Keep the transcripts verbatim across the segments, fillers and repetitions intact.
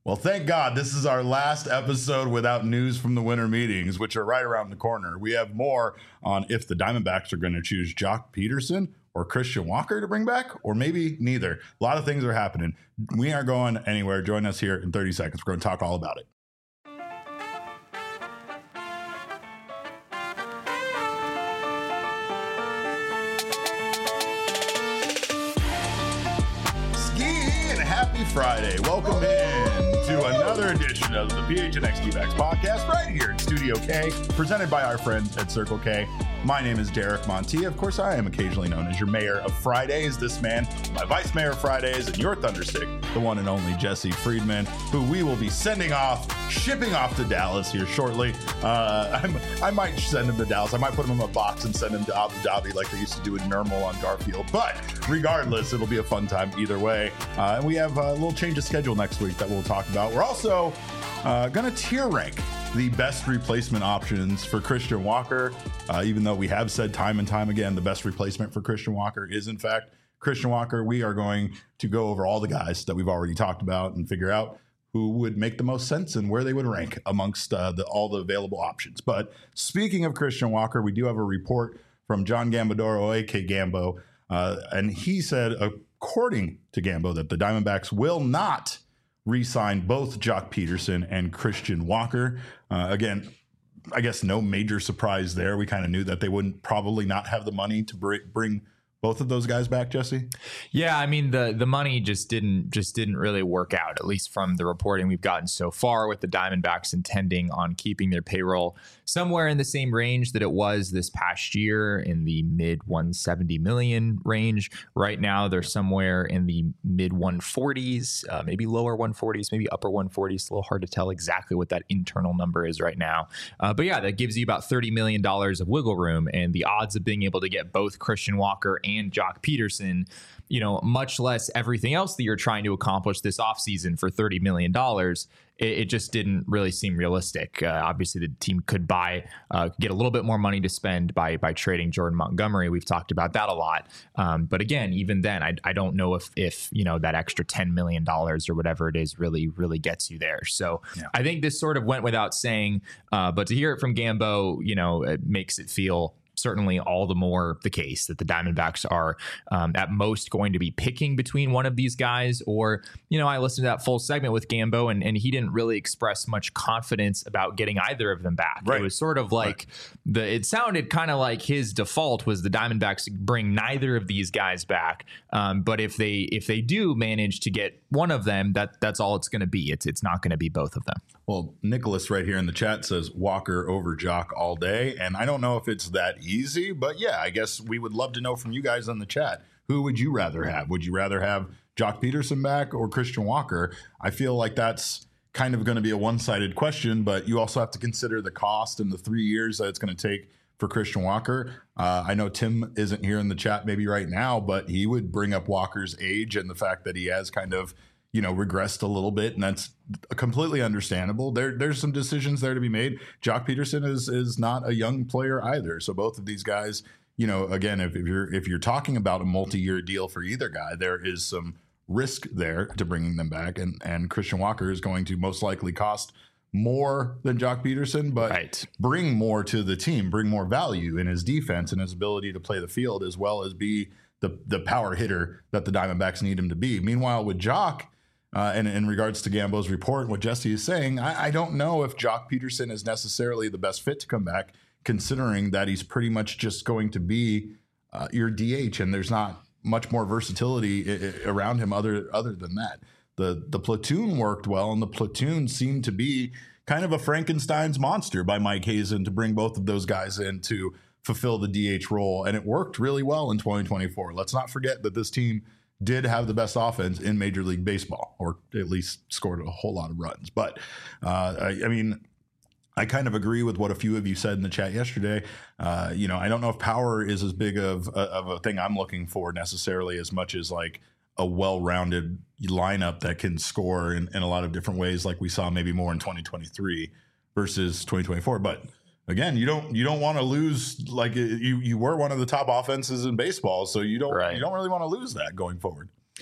Well, thank God this is our last episode without news from the winter meetings, which are right around the corner. We have more on if the Diamondbacks are going to choose Joc Pederson or Christian Walker to bring back, or maybe neither. A lot of things are happening. We aren't going anywhere. Join us here in thirty seconds. We're going to talk all about it. Friday. Welcome in to another edition of the P H N X D-Backs podcast right here in Studio K, presented by our friends at Circle K. My name is Derek Monti. Of course, I am occasionally known as your mayor of Fridays. This man, my vice mayor of Fridays, and your thunderstick, the one and only Jesse Friedman, who we will be sending off, shipping off to Dallas here shortly. Uh, I'm, I might send him to Dallas. I might put him in a box and send him to Abu Dhabi like they used to do in Nermal on Garfield. But regardless, it'll be a fun time either way. Uh, and we have a little change of schedule next week that we'll talk about. We're also uh, going to tier rank the best replacement options for Christian Walker, uh, even though we have said time and time again the best replacement for Christian Walker is, in fact, Christian Walker. We are going to go over all the guys that we've already talked about and figure out who would make the most sense and where they would rank amongst uh, the, all the available options. But speaking of Christian Walker, we do have a report from John Gambadoro, A K Gambo, uh, and he said, according to Gambo, that the Diamondbacks will not re-sign both Joc Pederson and Christian Walker. Uh, again, I guess no major surprise there. We kind of knew that they wouldn't probably not have the money to br- bring both of those guys back, Jesse. Yeah, I mean the the money just didn't just didn't really work out, at least from the reporting we've gotten so far, with the Diamondbacks intending on keeping their payroll somewhere in the same range that it was this past year, in the mid one hundred seventy million range. Right now, they're somewhere in the mid one forties, uh, maybe lower one forties, maybe upper one forties. It's a little hard to tell exactly what that internal number is right now. Uh, but yeah, that gives you about thirty million dollars of wiggle room, and the odds of being able to get both Christian Walker and and Joc Pederson, you know, much less everything else that you're trying to accomplish this offseason for thirty million dollars, it, it just didn't really seem realistic. Uh, obviously, the team could buy, uh, get a little bit more money to spend by by trading Jordan Montgomery. We've talked about that a lot. Um, but again, even then, I, I don't know if, if, you know, that extra ten million dollars or whatever it is really, really gets you there. So yeah. I think this sort of went without saying, uh, but to hear it from Gambo, you know, it makes it feel certainly all the more the case that the Diamondbacks are um, at most going to be picking between one of these guys. Or, you know, I listened to that full segment with Gambo, and, and he didn't really express much confidence about getting either of them back. Right. It was sort of like right. the, it sounded kind of like his default was the Diamondbacks bring neither of these guys back. Um, but if they, if they do manage to get one of them, that that's all it's going to be. It's, it's not going to be both of them. Well, Nicholas right here in the chat says Walker over Joc all day. And I don't know if it's that easy, but yeah, I guess we would love to know from you guys in the chat. Who would you rather have? Would you rather have Joc Pederson back or Christian Walker? I feel like that's kind of going to be a one-sided question, but you also have to consider the cost and the three years that it's going to take for Christian Walker. Uh, I know Tim isn't here in the chat maybe right now, but he would bring up Walker's age and the fact that he has kind of, you know, regressed a little bit, and that's completely understandable. There, there's some decisions there to be made. Joc Pederson is is not a young player either. So both of these guys, you know, again, if, if you're if you're talking about a multi-year deal for either guy, there is some risk there to bringing them back, and and Christian Walker is going to most likely cost more than Joc Pederson, but right. bring more to the team, bring more value in his defense and his ability to play the field, as well as be the the power hitter that the Diamondbacks need him to be. Meanwhile, with Joc, Uh, and in regards to Gambo's report, what Jesse is saying, I, I don't know if Joc Pederson is necessarily the best fit to come back, considering that he's pretty much just going to be uh, your D H, and there's not much more versatility I- I around him other other than that. The the platoon worked well, and the platoon seemed to be kind of a Frankenstein's monster by Mike Hazen to bring both of those guys in to fulfill the D H role, and it worked really well in twenty twenty-four. Let's not forget that this team did have the best offense in Major League Baseball, or at least scored a whole lot of runs. But uh, I, I mean, I kind of agree with what a few of you said in the chat yesterday. Uh, you know, I don't know if power is as big of a, of a thing I'm looking for necessarily, as much as like a well-rounded lineup that can score in, in a lot of different ways, like we saw maybe more in twenty twenty-three versus twenty twenty-four. But again, you don't you don't want to lose, like you you were one of the top offenses in baseball, so you don't right. you don't really want to lose that going forward.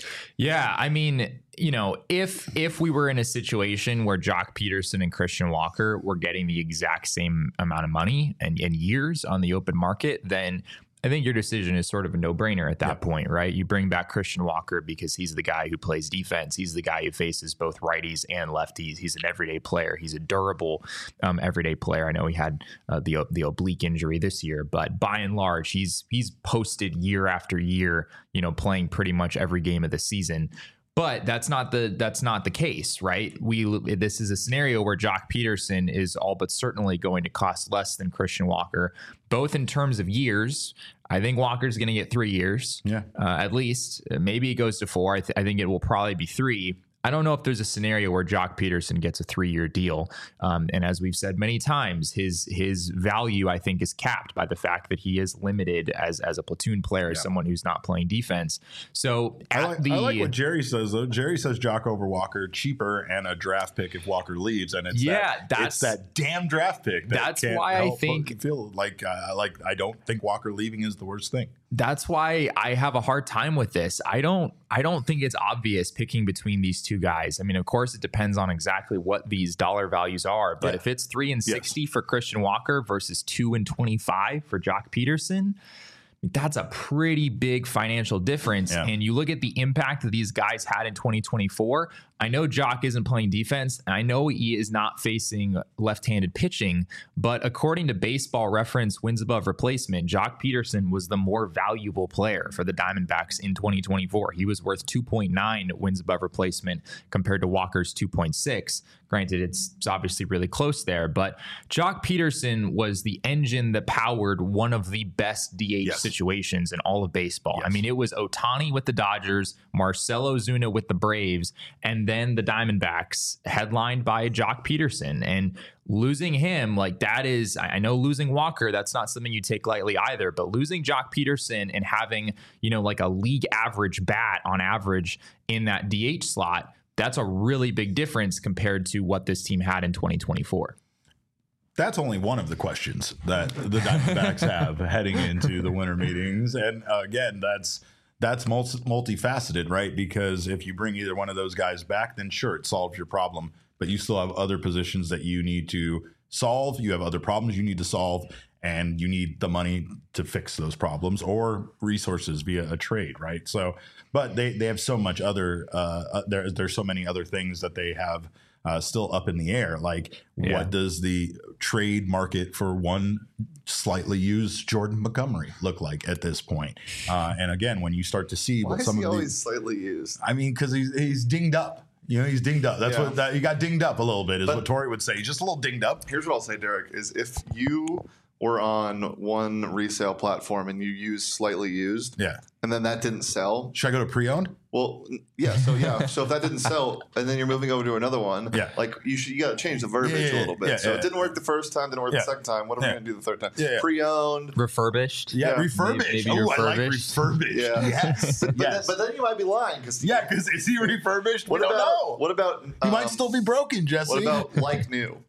Yeah, I mean, you know, if if we were in a situation where Jock Peterson and Christian Walker were getting the exact same amount of money and, and years on the open market, then I think your decision is sort of a no-brainer at that yeah. point, right? You bring back Christian Walker because he's the guy who plays defense. He's the guy who faces both righties and lefties. He's an everyday player. He's a durable um, everyday player. I know he had uh, the the oblique injury this year, but by and large, he's he's posted year after year, you know, playing pretty much every game of the season. But that's not the that's not the case, right? We this is a scenario where Jock Peterson is all but certainly going to cost less than Christian Walker, both in terms of years. I think Walker's going to get three years, yeah, uh, at least. Maybe it goes to four. I, th- I think it will probably be three. I don't know if there's a scenario where Jock Peterson gets a three-year deal. Um, and as we've said many times, his his value, I think, is capped by the fact that he is limited as as a platoon player, yeah. as someone who's not playing defense. So I like, the, I like what Jerry says, though. Jerry says Jock over Walker, cheaper and a draft pick if Walker leaves. And it's, yeah, that, that's, it's that damn draft pick. That that's why I think feel like, uh, like I don't think Walker leaving is the worst thing. That's why I have a hard time with this. I don't I don't think it's obvious picking between these two guys. I mean, of course, it depends on exactly what these dollar values are. But yeah. if it's three and sixty yes. for Christian Walker versus two and twenty-five for Jock Peterson, that's a pretty big financial difference. Yeah. And you look at the impact that these guys had in twenty twenty-four. I know Jock isn't playing defense, and I know he is not facing left-handed pitching, but according to Baseball Reference wins above replacement, Jock Peterson was the more valuable player for the Diamondbacks in twenty twenty-four. He was worth two point nine wins above replacement compared to Walker's two point six. Granted, it's, it's obviously really close there, but Jock Peterson was the engine that powered one of the best D H yes. situations in all of baseball. Yes. I mean, it was Ohtani with the Dodgers, Marcell Ozuna with the Braves, and then the Diamondbacks, headlined by Jock Peterson. And losing him, like that is, I know losing Walker, that's not something you take lightly either, but losing Jock Peterson and having, you know, like a league average bat on average in that D H slot, that's a really big difference compared to what this team had in twenty twenty-four. That's only one of the questions that the Diamondbacks have heading into the winter meetings. And uh, again, that's that's multi- multifaceted, right? Because if you bring either one of those guys back, then sure, it solves your problem. But you still have other positions that you need to solve. You have other problems you need to solve. And you need the money to fix those problems or resources via a trade, right? So, but they, they have so much other, uh, there, there's so many other things that they have uh, still up in the air. Like, yeah. what does the trade market for one slightly used Jordan Montgomery look like at this point? Uh, and again, when you start to see Why what some is he of always these, slightly used? I mean, because he's he's dinged up. You know, he's dinged up. That's yeah. what that, he got dinged up a little bit, is but, what Tori would say. He's just a little dinged up. Here's what I'll say, Derek: is if you or on one resale platform and you use slightly used, yeah, and then that didn't sell, should I go to pre-owned? Well, yeah. So yeah. So if that didn't sell, and then you're moving over to another one, yeah, like you should, you got to change the verbiage yeah, yeah, a little bit. Yeah, so yeah, it didn't work the first time, didn't work yeah. the second time. What are yeah. we going to do the third time? Yeah, yeah. Pre-owned, refurbished. Yeah, yeah. refurbished. Maybe, maybe oh, refurbished. I like refurbished. Yeah. Yes. but, but, yes. Then, but then you might be lying because yeah, because is he refurbished? What we about, don't know. What about? He um, might still be broken, Jesse. What about like new?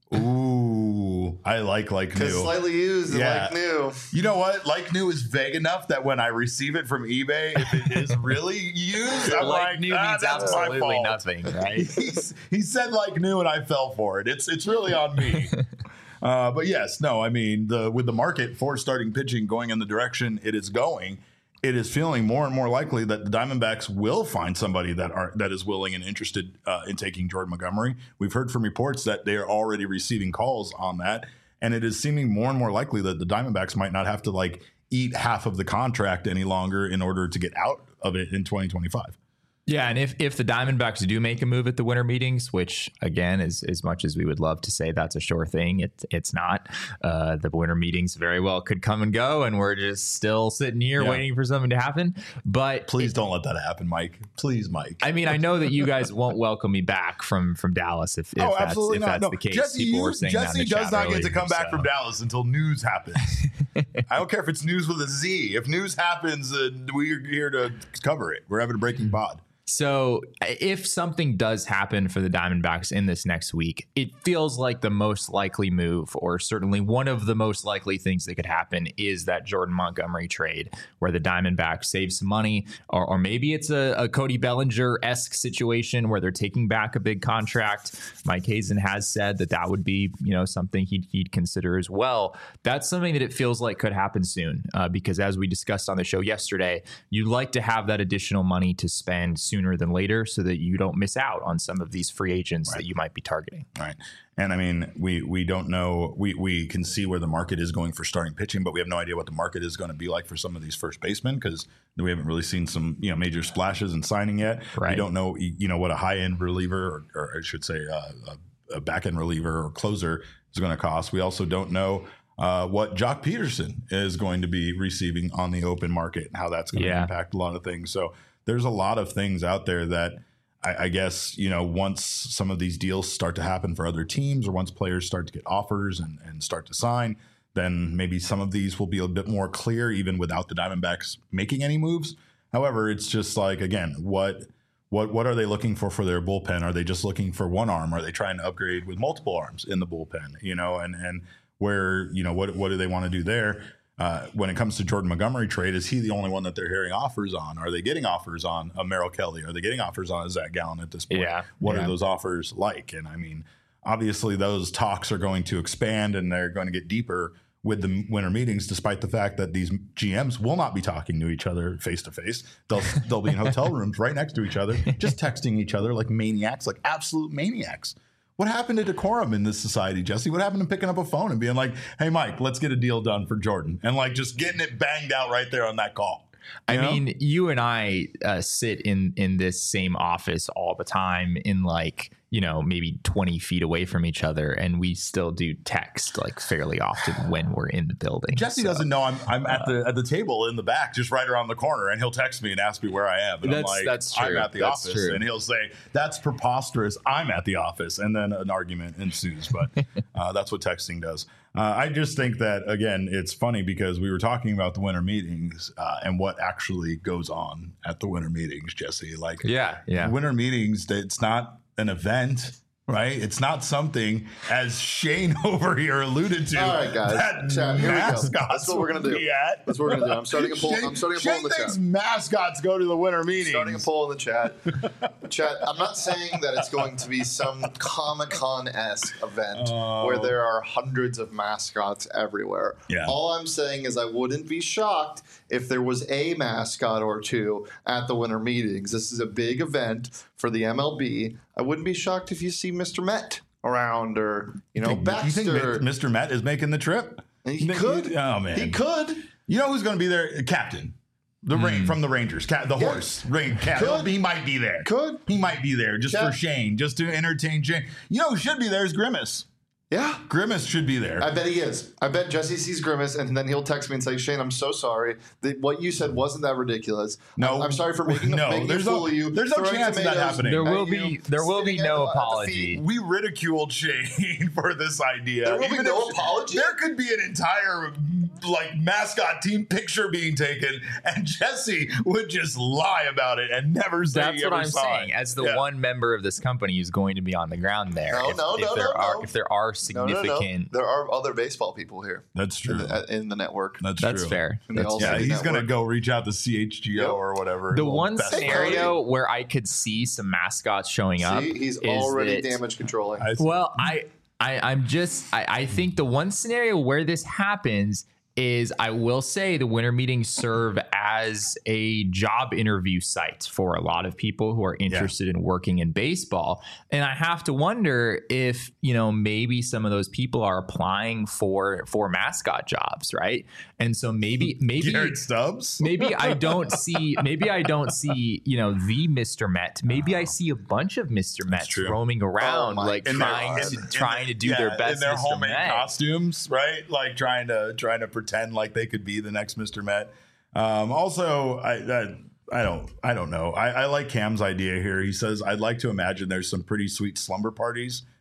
Ooh, I like like new. Because slightly used and yeah. like new. You know what? Like new is vague enough that when I receive it from eBay, if it is really used, I'm like, like, new ah, means that's absolutely my fault. nothing, right? He's, he said like new, and I fell for it. It's it's really on me. uh, but yes, no, I mean the with the market for starting pitching going in the direction it is going, it is feeling more and more likely that the Diamondbacks will find somebody that are that is willing and interested uh, in taking Jordan Montgomery. We've heard from reports that they are already receiving calls on that, and it is seeming more and more likely that the Diamondbacks might not have to like eat half of the contract any longer in order to get out of it in twenty twenty-five. Yeah, and if, if the Diamondbacks do make a move at the winter meetings, which, again, is as much as we would love to say that's a sure thing, it, it's not. Uh, the winter meetings very well could come and go, and we're just still sitting here yeah. waiting for something to happen. But please it, don't let that happen, Mike. Please, Mike. I mean, I know that you guys won't welcome me back from, from Dallas if, if oh, that's, if that's no. the case. Jesse, People you, were saying Jesse that in the does not earlier, get to come back so. from Dallas until news happens. I don't care if it's news with a Z. If news happens, uh, we're here to cover it. We're having a breaking pod. So if something does happen for the Diamondbacks in this next week, it feels like the most likely move, or certainly one of the most likely things that could happen, is that Jordan Montgomery trade, where the Diamondbacks save some money, or, or maybe it's a, a Cody Bellinger-esque situation where they're taking back a big contract. Mike Hazen has said that that would be, you know, something he'd, he'd consider as well. That's something that it feels like could happen soon, uh, because as we discussed on the show yesterday, you'd like to have that additional money to spend sooner than later so that you don't miss out on some of these free agents right. that you might be targeting. Right. And I mean, we we don't know. We we can see where the market is going for starting pitching, but we have no idea what the market is going to be like for some of these first basemen, because we haven't really seen some, you know, major splashes in signing yet. Right. We don't know, you know, what a high end reliever, or, or I should say uh, a, a back end reliever or closer is going to cost. We also don't know Uh, what Jock Peterson is going to be receiving on the open market and how that's going to yeah. impact a lot of things. So there's a lot of things out there that I, I guess, you know, once some of these deals start to happen for other teams, or once players start to get offers and, and start to sign, then maybe some of these will be a bit more clear even without the Diamondbacks making any moves. However, it's just like, again, what what what are they looking for for their bullpen? Are they just looking for one arm? Are they trying to upgrade with multiple arms in the bullpen? You know, and and where, you know, what what do they want to do there? Uh, when it comes to Jordan Montgomery trade, is he the only one that they're hearing offers on? Are they getting offers on a Merrill Kelly? Are they getting offers on a Zach Gallen at this point? Yeah. What yeah. are those offers like? And I mean, obviously those talks are going to expand and they're going to get deeper with the winter meetings, despite the fact that these G Ms will not be talking to each other face to face. They'll they'll be in hotel rooms right next to each other, just texting each other like maniacs, like absolute maniacs. What happened to decorum in this society, Jesse? What happened to picking up a phone and being like, hey, Mike, let's get a deal done for Jordan? And like just getting it banged out right there on that call. I You know? mean, you and I uh, sit in in this same office all the time, in like, you know, maybe twenty feet away from each other, and we still do text like fairly often when we're in the building. Jesse so, doesn't know I'm I'm at the at the table in the back, just right around the corner, and he'll text me and ask me where I am. And That's- I'm like, that's true. I'm at the That's office. true. And he'll say, that's preposterous. I'm at the office. And then an argument ensues. But uh, that's what texting does. Uh, I just think that, again, it's funny because we were talking about the winter meetings uh, and what actually goes on at the winter meetings, Jesse. Like, Yeah, yeah. winter meetings, it's not an event. Right? It's not something, as Shane over here alluded to. All right, guys. That Chat, here we go. mascots That's what we're gonna will do. be at. That's what we're gonna do. I'm starting a poll. Shane, I'm starting a poll Shane in the thinks chat. mascots go to the winter meetings. Starting a poll in the chat. Chat. I'm not saying that it's going to be some Comic-Con-esque event Oh. where there are hundreds of mascots everywhere. Yeah. All I'm saying is I wouldn't be shocked if there was a mascot or two at the winter meetings. This is a big event for the M L B. I wouldn't be shocked if you see Mister Met around, or you know, Think- Baxter. You think Mister Met is making the trip? He You think- could. Oh, man. He could. You know who's going to be there? Captain. The rain from the Rangers. Cat, the Yeah. horse. Rain, Cat. Could. He might be there. Could. He might be there just Cat. for Shane, just to entertain Shane. You know who should be there is Grimace. Yeah. Grimace should be there. I bet he is. I bet Jesse sees Grimace, and then he'll text me and say, "Shane, I'm so sorry. The, what you said wasn't that ridiculous. No. I'm, I'm sorry for making, No, making there's a fool no- of you. there's no throwing chance of that tomatoes happening. There at will you, be there will be spitting at no the- at the apology. feet. We ridiculed Shane for this idea. There will be Even no if- apology? There could be an entire like mascot team picture being taken, and Jesse would just lie about it and never say That's he what ever I'm saw saying. it. As the Yeah. one member of this company who's going to be on the ground there, No, if, no, if no, there no, are no. if there are No, no, significant, no. There are other baseball people here That's true. in the, in the network. That's, that's true. fair. And they That's all fair. Yeah, City he's gonna Network. go reach out to C H G O Yep. or whatever. The Little one best scenario where I could see some mascots showing up See, he's is already that- damage controlling. I- Well, I, I I'm just I, I think the one scenario where this happens is, I will say, the winter meetings serve as a job interview site for a lot of people who are interested in working in baseball. And I have to wonder if, you know, maybe some of those people are applying for for mascot jobs, right? And so maybe maybe Garrett Stubbs. maybe I don't see maybe I don't see, you know, the Mister Met. Maybe I see a bunch of Mister Mets true. roaming around, Oh my like God. trying In to their- trying to do Yeah, their best in their Mister homemade Met. costumes, right? Like trying to trying to pretend like they could be the next Mister Met. Um, also, I, I I don't I don't know. I, I like Cam's idea here. He says, I'd like to imagine there's some pretty sweet slumber parties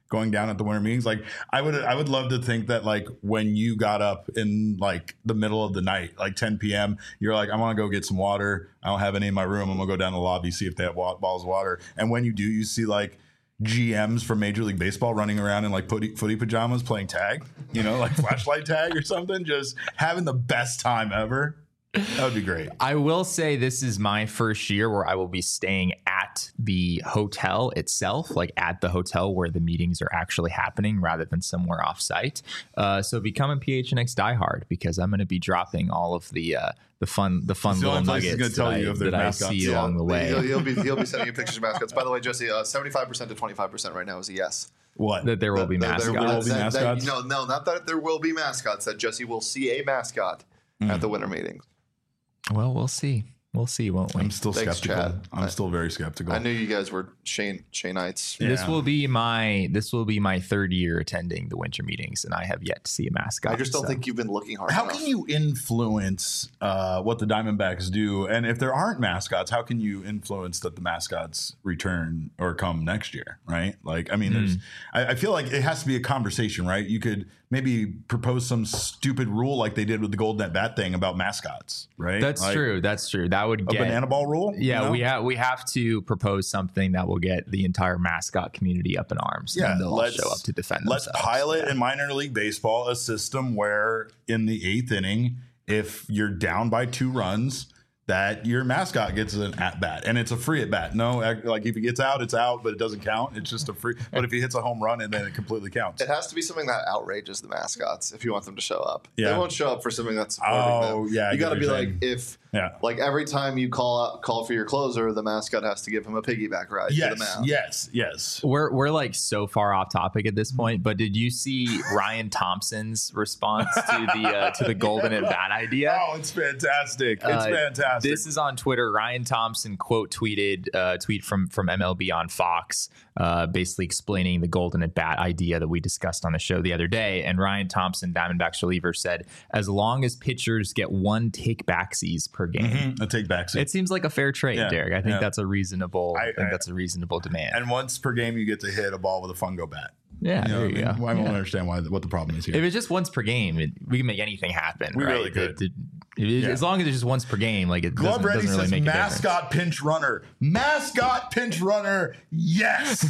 going down at the winter meetings. Like I would, I would love to think that like when you got up in like the middle of the night, like ten p.m., you're like, I want to go get some water. I don't have any in my room. I'm gonna go down to the lobby, see if they have wa- bottles of water. And when you do, you see like G Ms from Major League Baseball running around in like footy, footy pajamas playing tag, you know, like flashlight tag or something, just having the best time ever. That would be great. I will say this is my first year where I will be staying at the hotel itself, like at the hotel where the meetings are actually happening rather than somewhere off site. Uh, so become a P H N X diehard because I'm going to be dropping all of the uh, the fun the fun It's the little only place he's nuggets gonna that, tell you I, if they're that I mascots. see Yeah, along the way. He'll, he'll be he'll be sending you pictures of mascots. By the way, Jesse, uh, seventy-five percent to twenty-five percent right now is a yes. What? That there will be That- mascots. that- There will be that- that- mascots? no, no, not that there will be mascots. That Jesse will see a mascot Mm. at the winter meetings. Well, we'll see. We'll see, won't we? I'm still Thanks, skeptical. Chad. I'm I- still very skeptical. I knew you guys were Shane Shane'ites. This Yeah. will be my this will be my third year attending the winter meetings, and I have yet to see a mascot. I just don't so. think you've been looking hard How enough. can you influence uh, what the Diamondbacks do? And if there aren't mascots, how can you influence that the mascots return or come next year? Right? Like, I mean, there's, I, I feel like it has to be a conversation, right? You could maybe propose some stupid rule like they did with the Golden at Bat thing about mascots, right? That's Like true. That's true. That would A get banana ball rule? you Yeah, know? we have we have to propose something that will get the entire mascot community up in arms. Yeah, and they'll all let's- show up to defend Let's themselves. pilot Yeah. in minor league baseball a system where in the eighth inning, if you're down by two runs, that your mascot gets an at bat and it's a free at bat. No, ac- like if he gets out, it's out, but it doesn't count. It's just a free. But if he hits a home run, and then it completely counts. It has to be something that outrages the mascots if you want them to show up. Yeah. They won't show up for something that's supporting Oh, them. yeah, I You get got to what be you're like saying. if Yeah. like every time you call out call for your closer, the mascot has to give him a piggyback ride to the Yes, mound. yes, yes. We're we're like so far off topic at this point, but did you see Ryan Thompson's response to the uh, to the golden at bat idea? Oh, it's fantastic! It's Uh, fantastic. This is on Twitter. Ryan Thompson quote tweeted uh, tweet from from M L B on Fox, uh, basically explaining the golden at bat idea that we discussed on the show the other day. And Ryan Thompson, Diamondbacks reliever, said, "As long as pitchers get one take backsies per game." Mhm, a take back seat. It seems like a fair trade, Yeah, Derek. I think yeah. that's a reasonable. I, I- think I- that's a reasonable demand. and once per game, you get to hit a ball with a fungo bat. yeah, You know there what you I mean? go. I don't Yeah. understand why what the problem is here. If it's just once per game, it, we can make anything happen. We right? really could. The- the- if it- Yeah. As long as it's just once per game, like it Glove doesn't, Ready doesn't really says make a difference. mascot pinch runner. Mascot pinch runner. Yes.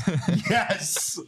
yes.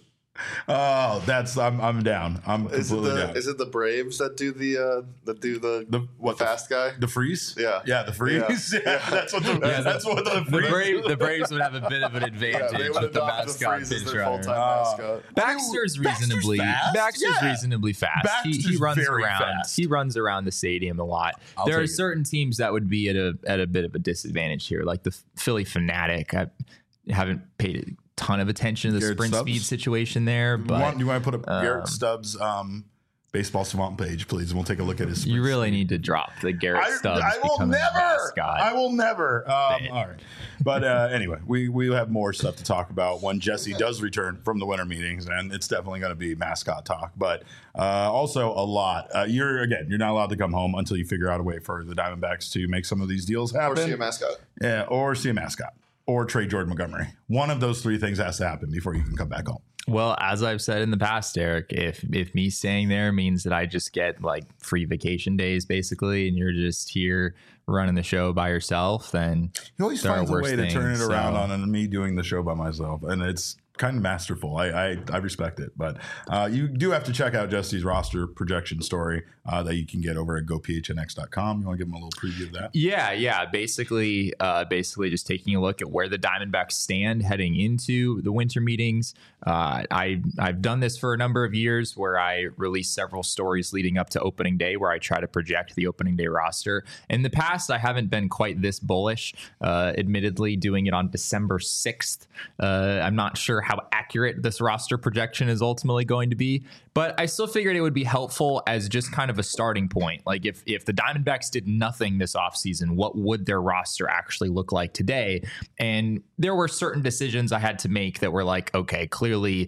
Oh, that's I'm I'm down. I'm Is it, completely the, down. is it the Braves that do the uh, that do the, the what the- fast guy? The freeze? Yeah. Yeah, the freeze. Yeah. Yeah. That's what the Yeah, that's what the The, freeze Brave, the Braves would have a bit of an Yeah, advantage they would with the adopt the mascot freeze as pinch their runner. full-time Oh. mascot. Baxter's Baxter's reasonably fast? Baxter's Yeah. reasonably fast. he, he Baxter's runs very around. fast. He runs around the stadium a lot. I'll there are take it. certain teams that would be at a at a bit of a disadvantage here, like the Philly Fanatic. I haven't paid a ton of attention to the Garrett sprint Stubbs? speed situation there, you, but want, you want to put up um, Garrett Stubbs um, baseball swamp page, please, and we'll take a look at his. you really speed. need to drop the Garrett I, Stubbs. I will becoming a never. mascot. I will never. Um, Bit. all right, but uh, anyway, we we have more stuff to talk about when Jesse does return from the winter meetings, and it's definitely going to be mascot talk. But uh, also a lot. Uh, you're again, you're not allowed to come home until you figure out a way for the Diamondbacks to make some of these deals Or happen. see a mascot. Yeah, or see a mascot, or trade Jordan Montgomery. One of those three things has to happen before you can come back home. Well, as I've said in the past, Eric, if if me staying there means that I just get like free vacation days, basically, and you're just here running the show by yourself, then He always there are finds a worse way to turn it things, around so- on me doing the show by myself, and it's kind of masterful. I I, I respect it, but uh, you do have to check out Jesse's roster projection story uh, that you can get over at go p h n x dot com. You want to give him a little preview of that? Yeah, yeah. Basically, uh, basically just taking a look at where the Diamondbacks stand heading into the winter meetings. Uh, I I've done this for a number of years, where I release several stories leading up to opening day, where I try to project the opening day roster. In the past, I haven't been quite this bullish. Uh, admittedly, doing it on December sixth, uh, I'm not sure how accurate this roster projection is ultimately going to be, but I still figured it would be helpful as just kind of a starting point. Like if if the Diamondbacks did nothing this offseason, what would their roster actually look like today? And there were certain decisions I had to make that were like, okay, clearly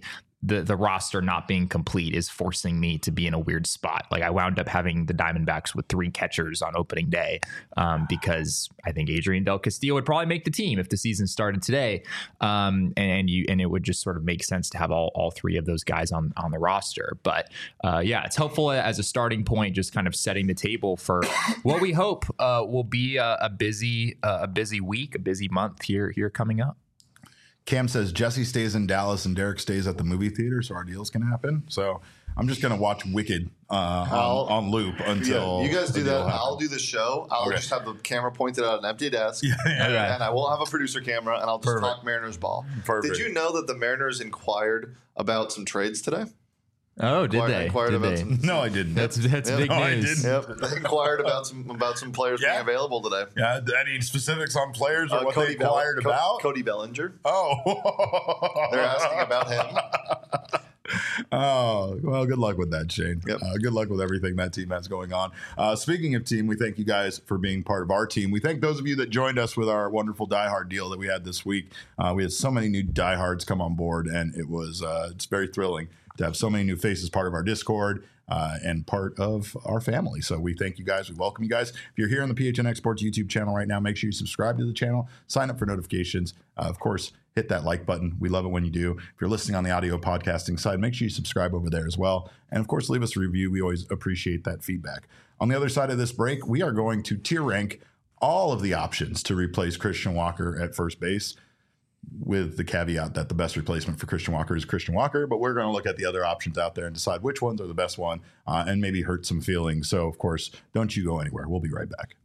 the the roster not being complete is forcing me to be in a weird spot. Like I wound up having the Diamondbacks with three catchers on opening day um, because I think Adrian Del Castillo would probably make the team if the season started today. Um, and, and you and it would just sort of make sense to have all, all three of those guys on, on the roster. But uh, yeah, it's helpful as a starting point, just kind of setting the table for what we hope uh, will be a, a busy uh, a busy week, a busy month here here coming up. Cam says Jesse stays in Dallas and Derek stays at the movie theater, so our deals can happen. So I'm just going to watch Wicked uh, on, on loop until yeah, you guys do that. Happen. I'll do the show. I'll okay. just have the camera pointed at an empty desk, yeah, yeah, and, yeah. and I won't have a producer camera, and I'll just Perfect. talk Mariners ball. Perfect. Did you know that the Mariners inquired about some trades today? Oh, did Inquired, they? inquired Did about they? some, No, I didn't. That's that's Yep. big No, I news. didn't. Yep, they inquired about some about some players Yeah. being available today. Yeah, any specifics on players or Uh, what Cody they inquired Bell- about? Co- Cody Bellinger. Oh, They're asking about him. Oh, well, good luck with that, Shane. Yep. Uh, good luck with everything that team has going on. Uh, speaking of team, we thank you guys for being part of our team. We thank those of you that joined us with our wonderful Die Hard deal that we had this week. Uh, we had so many new Die Hards come on board, and it was uh, it's very thrilling to have so many new faces part of our Discord uh, and part of our family. So we thank you guys. We welcome you guys. If you're here on the P H N Exports YouTube channel right now, make sure you subscribe to the channel, sign up for notifications. Uh, of course, hit that like button. We love it when you do. If you're listening on the audio podcasting side, make sure you subscribe over there as well. And of course, leave us a review. We always appreciate that feedback. On the other side of this break, we are going to tier rank all of the options to replace Christian Walker at first base, with the caveat that the best replacement for Christian Walker is Christian Walker. But we're going to look at the other options out there and decide which ones are the best one uh, and maybe hurt some feelings. So, of course, don't you go anywhere. We'll be right back.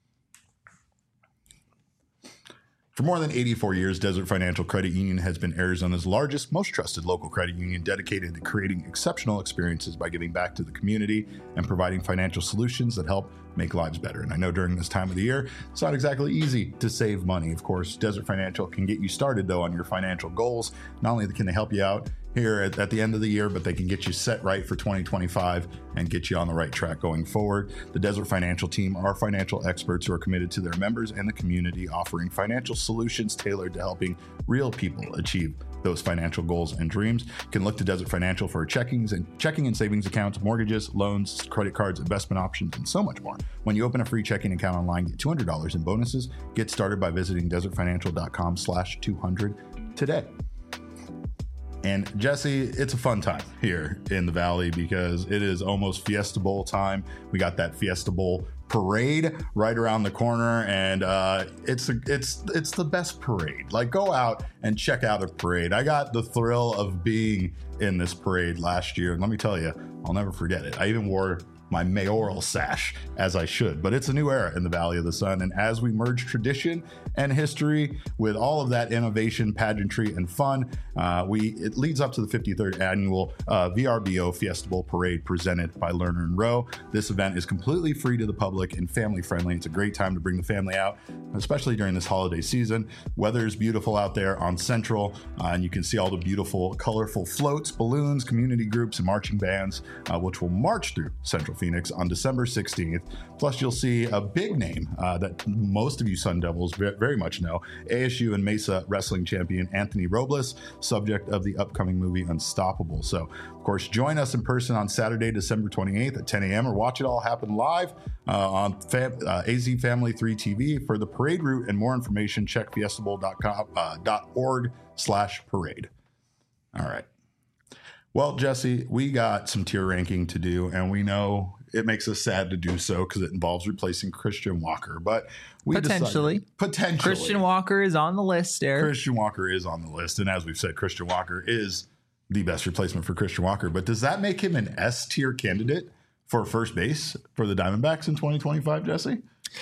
For more than eighty-four years, Desert Financial Credit Union has been Arizona's largest, most trusted local credit union, dedicated to creating exceptional experiences by giving back to the community and providing financial solutions that help make lives better. And I know during this time of the year, it's not exactly easy to save money. Of course, Desert Financial can get you started, though, on your financial goals. Not only can they help you out here at, at the end of the year, but they can get you set right for twenty twenty-five and get you on the right track going forward. The Desert Financial team are financial experts who are committed to their members and the community, offering financial solutions tailored to helping real people achieve those financial goals and dreams. You can look to Desert Financial for checkings and checking and savings accounts, mortgages, loans, credit cards, investment options, and so much more. When you open a free checking account online, get two hundred dollars in bonuses. Get started by visiting desertfinancial.com slash 200 today. And Jesse, it's a fun time here in the Valley because it is almost Fiesta Bowl time. We got that Fiesta Bowl parade right around the corner, and uh, it's a, it's it's the best parade. Like, go out and check out a parade. I got the thrill of being in this parade last year, and let me tell you, I'll never forget it. I even wore my mayoral sash, as I should. But it's a new era in the Valley of the Sun, and as we merge tradition and history with all of that innovation, pageantry, and fun, uh, we it leads up to the fifty-third annual uh, V R B O Fiesta Bowl Parade presented by Lerner and Rowe. This event is completely free to the public and family friendly. It's a great time to bring the family out, especially during this holiday season. Weather is beautiful out there on Central, uh, and you can see all the beautiful, colorful floats, balloons, community groups, and marching bands, uh, which will march through Central Phoenix on December sixteenth. Plus, you'll see a big name uh, that most of you Sun Devils very much know, A S U and Mesa wrestling champion Anthony Robles, subject of the upcoming movie Unstoppable. So, of course, join us in person on Saturday, December twenty-eighth at ten a.m. or watch it all happen live uh, on fam- uh, A Z Family three T V. For the parade route and more information, check fiestabowl dot org slash parade. All right. Well, Jesse, we got some tier ranking to do, and we know it makes us sad to do so because it involves replacing Christian Walker. But we Potentially. decided, potentially, Christian Walker is on the list, Eric. Christian Walker is on the list, and as we've said, Christian Walker is the best replacement for Christian Walker. But does that make him an S tier candidate for first base for the Diamondbacks in twenty twenty-five, Jesse?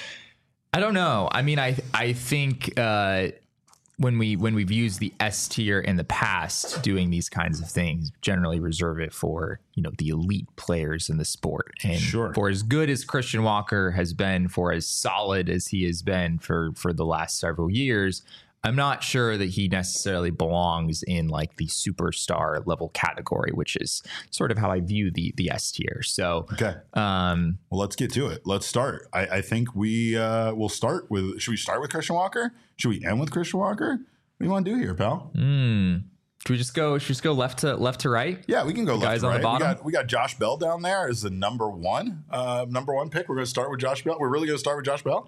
I don't know. I mean, I I think uh, when we when we've used the S tier in the past, doing these kinds of things, generally reserve it for, you know, the elite players in the sport. And Sure. for as good as Christian Walker has been, for as solid as he has been for for the last several years, I'm not sure that he necessarily belongs in like the superstar level category, which is sort of how I view the the S tier. So, Okay. um, Well, let's get to it. Let's start. I, I think we uh, will start with. Should we start with Christian Walker? Should we end with Christian Walker? What do you want to do here, pal? mm, Should we just go? Should we just go left to left to right? Yeah, we can go The left guys to on the right. bottom? We got we got Josh Bell down there as the number one uh, number one pick. We're going to start with Josh Bell. We're really going to start with Josh Bell.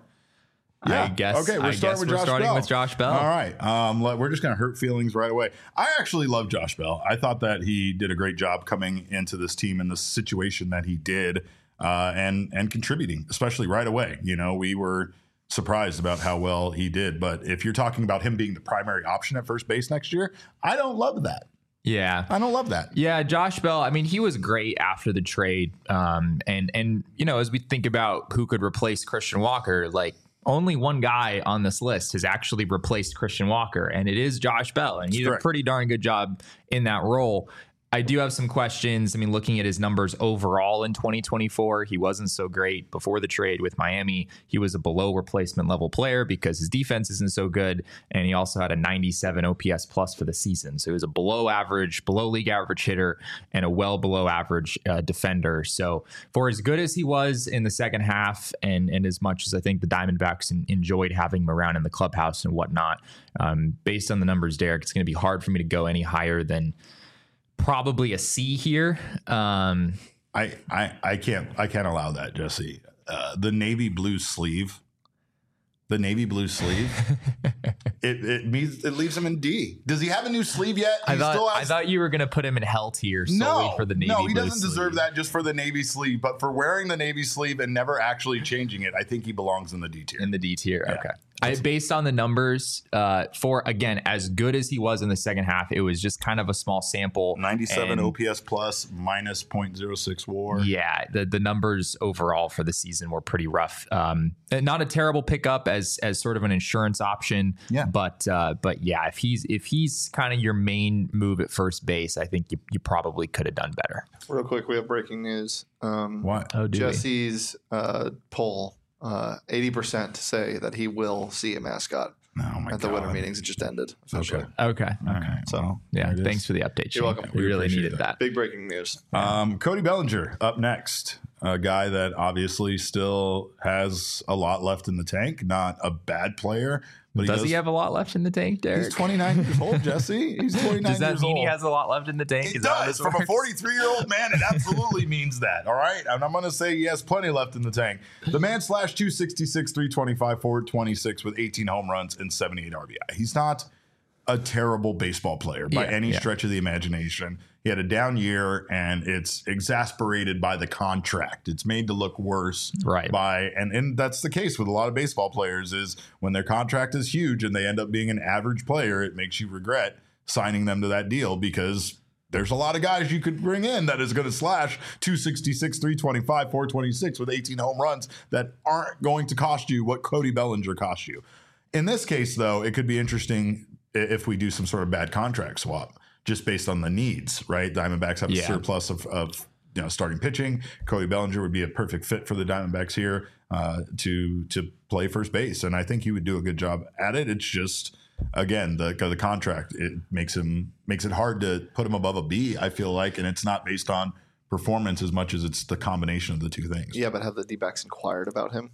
I guess. Okay, we're I starting guess with we're Josh starting Bell. with Josh Bell. All right. Um, let- we're just going to hurt feelings right away. I actually love Josh Bell. I thought that he did a great job coming into this team in the situation that he did, uh, and and contributing, especially right away. You know, we were surprised about how well he did. But if you're talking about him being the primary option at first base next year, I don't love that. Yeah. I don't love that. Yeah, Josh Bell. I mean, he was great after the trade, um, and and you know, as we think about who could replace Christian Walker, like only one guy on this list has actually replaced Christian Walker, and it is Josh Bell, and he did a correct. pretty darn good job in that role. I do have some questions. I mean, looking at his numbers overall in twenty twenty-four, he wasn't so great before the trade with Miami. He was a below replacement level player because his defense isn't so good. And he also had a ninety-seven O P S plus for the season. So he was a below average, below league average hitter and a well below average uh, defender. So for as good as he was in the second half, and, and as much as I think the Diamondbacks en- enjoyed having him around in the clubhouse and whatnot, um, based on the numbers, Derek, it's going to be hard for me to go any higher than probably a C here. Um, I, I I can't I can't allow that, Jesse. Uh, the navy blue sleeve, the navy blue sleeve, it it means it leaves him in D. Does he have a new sleeve yet? He I thought still I has- thought you were going to put him in hell tier solely no, for the navy no, he blue doesn't sleeve. deserve that just for the navy sleeve, but for wearing the navy sleeve and never actually changing it, I think he belongs in the D tier. In the D tier. Yeah. Okay. I, based on the numbers, uh, for again, as good as he was in the second half, it was just kind of a small sample. ninety-seven and O P S plus, minus zero point zero six WAR. Yeah, the the numbers overall for the season were pretty rough. Um, and not a terrible pickup as as sort of an insurance option. Yeah. But uh, but yeah, if he's if he's kind of your main move at first base, I think you, you probably could have done better. Real quick, we have breaking news. Um, What? Oh, do we? Jesse's uh, poll, uh, eighty percent say that he will see a mascot Oh my at the God. winter meetings. It just ended officially. Okay. Okay. All right. So, well, Yeah. there it Thanks is. for the update. Shane. You're welcome. We We really appreciate needed that. Big breaking news. Um, Cody Bellinger up next, a guy that obviously still has a lot left in the tank. Not a bad player, but he Does does, he have a lot left in the tank, Derek? He's twenty-nine years old, Jesse. He's twenty-nine Does that years mean old. he has a lot left in the tank? It Is that how does. this From a works? forty-three-year-old man, it absolutely means that. All right? And I'm going to say he has plenty left in the tank. The man slashed two sixty-six, three twenty-five, four twenty-six with eighteen home runs and seventy-eight R B I. He's not a terrible baseball player by Yeah, any yeah. stretch of the imagination. He had a down year, and it's exasperated by the contract. It's made to look worse Right. by, and, and that's the case with a lot of baseball players, is when their contract is huge and they end up being an average player, it makes you regret signing them to that deal because there's a lot of guys you could bring in that is going to slash two sixty-six, three twenty-five, four twenty-six with eighteen home runs that aren't going to cost you what Cody Bellinger cost you. In this case, though, it could be interesting if we do some sort of bad contract swap just based on the needs, right? Diamondbacks have a Yeah. surplus of, of you know starting pitching. Cody Bellinger would be a perfect fit for the Diamondbacks here uh, to to play first base, and I think he would do a good job at it. It's just again the the contract it makes him makes it hard to put him above a B. I feel like, and it's not based on performance as much as it's the combination of the two things. Yeah, but have the D-backs inquired about him?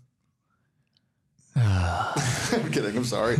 I'm kidding. I'm sorry.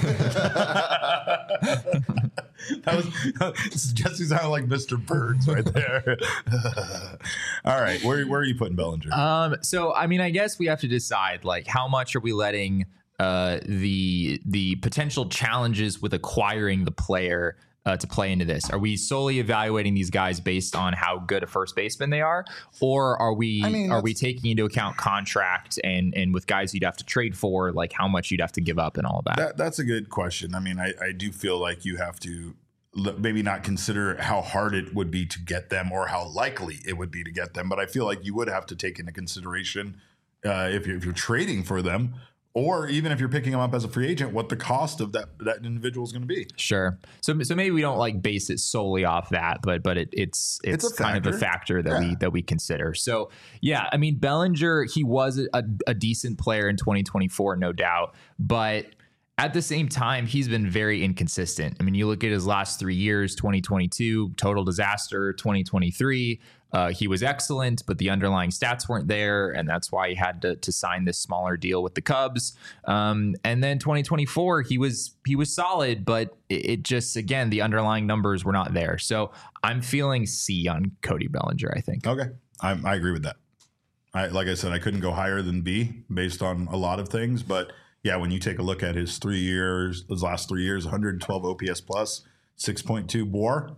That was Jesse sounded like Mister Burns right there. All right, where where are you putting Bellinger? Um, so I mean, I guess we have to decide like how much are we letting uh, the the potential challenges with acquiring the player uh, to play into this. Are we solely evaluating these guys based on how good a first baseman they are, or are we I mean, are we that's- taking into account contract and and with guys you'd have to trade for, like how much you'd have to give up and all that? That, that's a good question. I mean, I, I do feel like you have to l- maybe not consider how hard it would be to get them or how likely it would be to get them, but I feel like you would have to take into consideration uh, if, you're, if you're trading for them, or even if you're picking them up as a free agent, what the cost of that that individual is going to be. Sure. So so maybe we don't like base it solely off that, but but it, it's it's, It's a kind of a factor. factor that Yeah. we that we consider. So yeah, I mean Bellinger, he was a, a decent player in twenty twenty-four, no doubt, but At the same time, he's been very inconsistent. I mean, you look at his last three years, twenty twenty-two, total disaster, twenty twenty-three. Uh, he was excellent, but the underlying stats weren't there. And that's why he had to, to sign this smaller deal with the Cubs. Um, and then twenty twenty-four, he was he was solid, but it, it just, again, the underlying numbers were not there. So I'm feeling C on Cody Bellinger, I think. Okay. I, I agree with that. I, like I said, I couldn't go higher than B based on a lot of things, but yeah, when you take a look at his three years, his last three years, one hundred twelve O P S plus, six point two W A R,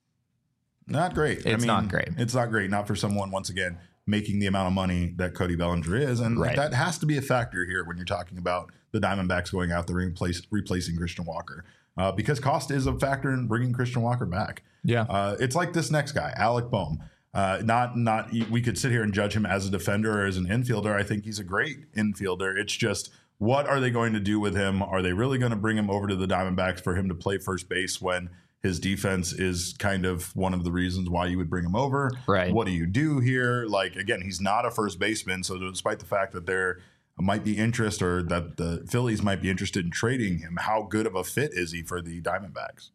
not great. It's I mean, not great. It's not great. Not for someone, once again, making the amount of money that Cody Bellinger is. And Right. that has to be a factor here when you're talking about the Diamondbacks going out there and replace, replacing Christian Walker. Uh, because cost is a factor in bringing Christian Walker back. Yeah. Uh, it's like this next guy, Alec Bohm. Uh, not, not, we could sit here and judge him as a defender or as an infielder. I think he's a great infielder. It's just, what are they going to do with him? Are they really going to bring him over to the Diamondbacks for him to play first base when his defense is kind of one of the reasons why you would bring him over? Right. What do you do here? Like, again, he's not a first baseman. So despite the fact that there might be interest or that the Phillies might be interested in trading him, how good of a fit is he for the Diamondbacks?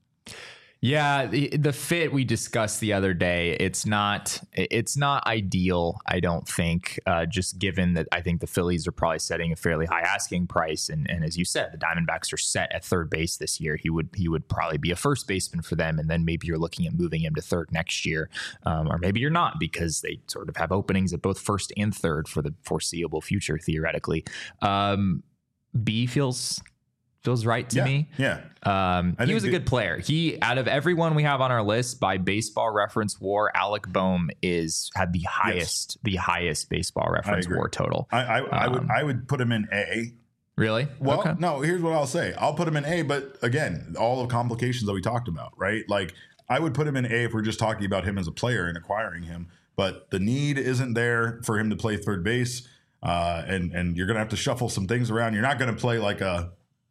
Yeah, the, the fit we discussed the other day, it's not it's not ideal, I don't think, uh, just given that I think the Phillies are probably setting a fairly high asking price. And, and as you said, the Diamondbacks are set at third base this year. He would he would probably be a first baseman for them. And then maybe you're looking at moving him to third next year. Um, or maybe you're not, because they sort of have openings at both first and third for the foreseeable future, theoretically. Um, B feels... Feels right to yeah, me. Yeah. Um, he was a the, good player. He, out of everyone we have on our list by Baseball Reference W A R, Alec Bohm is had the highest, yes. the highest Baseball Reference W A R total. I, I, um, I would, I would put him in A. Really? Well, okay. no. Here's what I'll say. I'll put him in A, but again, all the complications that we talked about, right? Like, I would put him in A if we're just talking about him as a player and acquiring him. But the need isn't there for him to play third base, uh, and and you're gonna have to shuffle some things around. You're not gonna play like a